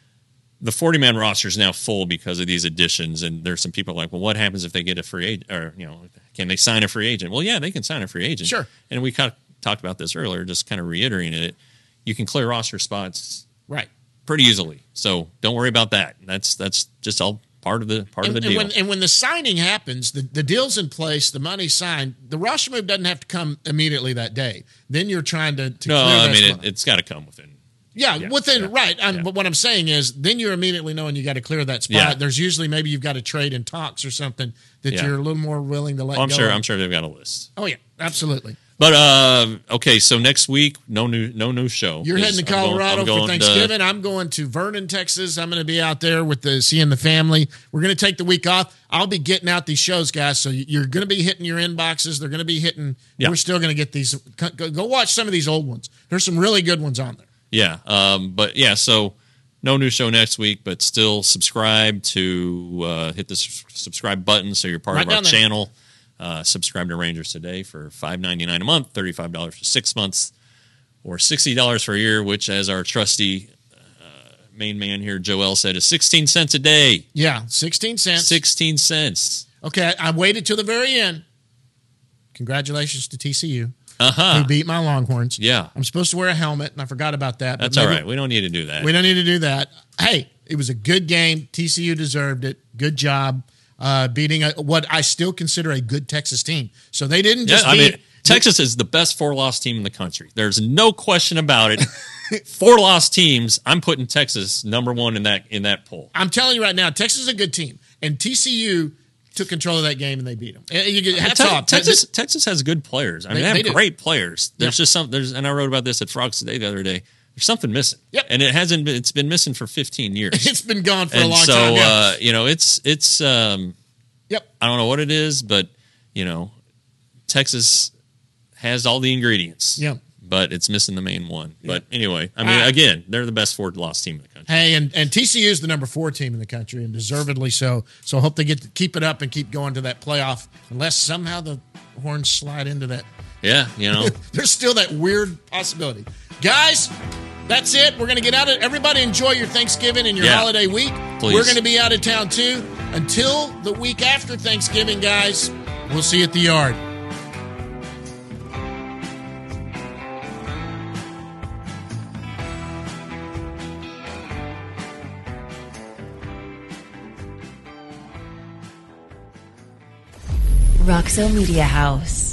Speaker 4: the forty-man roster is now full because of these additions, and there's some people like, well, what happens if they get a free agent, or you know, can they sign a free agent? Well, yeah, they can sign a free agent.
Speaker 3: Sure.
Speaker 4: And we kind of talked about this earlier, just kind of reiterating it. You can clear roster spots
Speaker 3: right.
Speaker 4: pretty easily, so don't worry about that. That's that's just all part of the part
Speaker 3: And,
Speaker 4: of the
Speaker 3: and
Speaker 4: deal.
Speaker 3: when, and when the signing happens, the, the deal's in place, the money's signed, the roster move doesn't have to come immediately that day. Then you're trying to, to
Speaker 4: no,
Speaker 3: clear
Speaker 4: I
Speaker 3: that
Speaker 4: mean
Speaker 3: spot.
Speaker 4: it, it's got to come within.
Speaker 3: Yeah,
Speaker 4: Yeah,
Speaker 3: within
Speaker 4: yeah,
Speaker 3: right. Um,
Speaker 4: yeah.
Speaker 3: But what I'm saying is, then you're immediately knowing you got to clear that spot.
Speaker 4: Yeah.
Speaker 3: There's usually maybe you've got to trade in talks or something that
Speaker 4: Yeah.
Speaker 3: you're a little more willing to let
Speaker 4: Oh, I'm
Speaker 3: go.
Speaker 4: sure.
Speaker 3: of.
Speaker 4: I'm sure they've got a list.
Speaker 3: Oh yeah, absolutely.
Speaker 4: But uh, okay, so next week, no new, no new show.
Speaker 3: You're heading to
Speaker 4: I'm going-
Speaker 3: Colorado
Speaker 4: I'm going
Speaker 3: for
Speaker 4: to-
Speaker 3: Thanksgiving. I'm going to Vernon, Texas. I'm going to be out there with the seeing the family. We're going to take the week off. I'll be getting out these shows, guys. So you're going to be hitting your inboxes. They're going to be hitting.
Speaker 4: Yeah.
Speaker 3: We're still going to get these. Go, go watch some of these old ones. There's some really good ones on there.
Speaker 4: Yeah, um, but yeah, so no new show next week, but still subscribe to uh, hit the s- subscribe button so you're part
Speaker 3: Right
Speaker 4: of our
Speaker 3: down there.
Speaker 4: channel. Uh, subscribe to Rangers Today for five ninety-nine a month, thirty-five dollars for six months, or sixty dollars for a year, which, as our trusty uh, main man here, Joel, said, is sixteen cents a day.
Speaker 3: Yeah, sixteen cents.
Speaker 4: sixteen cents.
Speaker 3: Okay, I, I waited till the very end. Congratulations to T C U.
Speaker 4: Uh-huh.
Speaker 3: Who beat my Longhorns.
Speaker 4: Yeah.
Speaker 3: I'm supposed to wear a helmet, and I forgot about that. but
Speaker 4: That's all
Speaker 3: maybe-
Speaker 4: right. We don't need to do that.
Speaker 3: We don't need to do that. Hey, it was a good game. T C U deserved it. Good job uh, beating a, what I still consider a good Texas team. So they didn't
Speaker 4: Yeah,
Speaker 3: just
Speaker 4: I
Speaker 3: beat.
Speaker 4: mean, Texas is the best four-loss team in the country. There's no question about it. Four-loss teams, I'm putting Texas number one in that in that poll.
Speaker 3: I'm telling you right now, Texas is a good team, and T C U took control of that game and they beat them. And you get hats
Speaker 4: Te-
Speaker 3: off.
Speaker 4: Texas, Texas has good players. I mean,
Speaker 3: They-
Speaker 4: they, have
Speaker 3: they do.
Speaker 4: great players. There's
Speaker 3: Yeah.
Speaker 4: just some. There's, and I wrote about this at Frogs Today the other day. There's something missing.
Speaker 3: Yep.
Speaker 4: And it hasn't. Been, it's been missing for fifteen years.
Speaker 3: It's been gone for
Speaker 4: and
Speaker 3: a long
Speaker 4: so,
Speaker 3: time. Yeah.
Speaker 4: uh, you know, it's it's. Um,
Speaker 3: Yep.
Speaker 4: I don't know what it is, but you know, Texas has all the ingredients.
Speaker 3: Yep.
Speaker 4: But it's missing the main one. But anyway, I mean,
Speaker 3: Ah.
Speaker 4: again, they're the best four-loss team in the country.
Speaker 3: Hey, and, and T C U is the number four team in the country, and deservedly so. So I hope they get to keep it up and keep going to that playoff, unless somehow the Horns slide into that.
Speaker 4: Yeah, you know.
Speaker 3: There's still that weird possibility. Guys, that's it. We're going to get out of Everybody enjoy your Thanksgiving and your
Speaker 4: Yeah.
Speaker 3: holiday week.
Speaker 4: Please.
Speaker 3: We're going to be out of town too. Until the week after Thanksgiving, guys, we'll see you at the yard.
Speaker 1: Roxo Media House.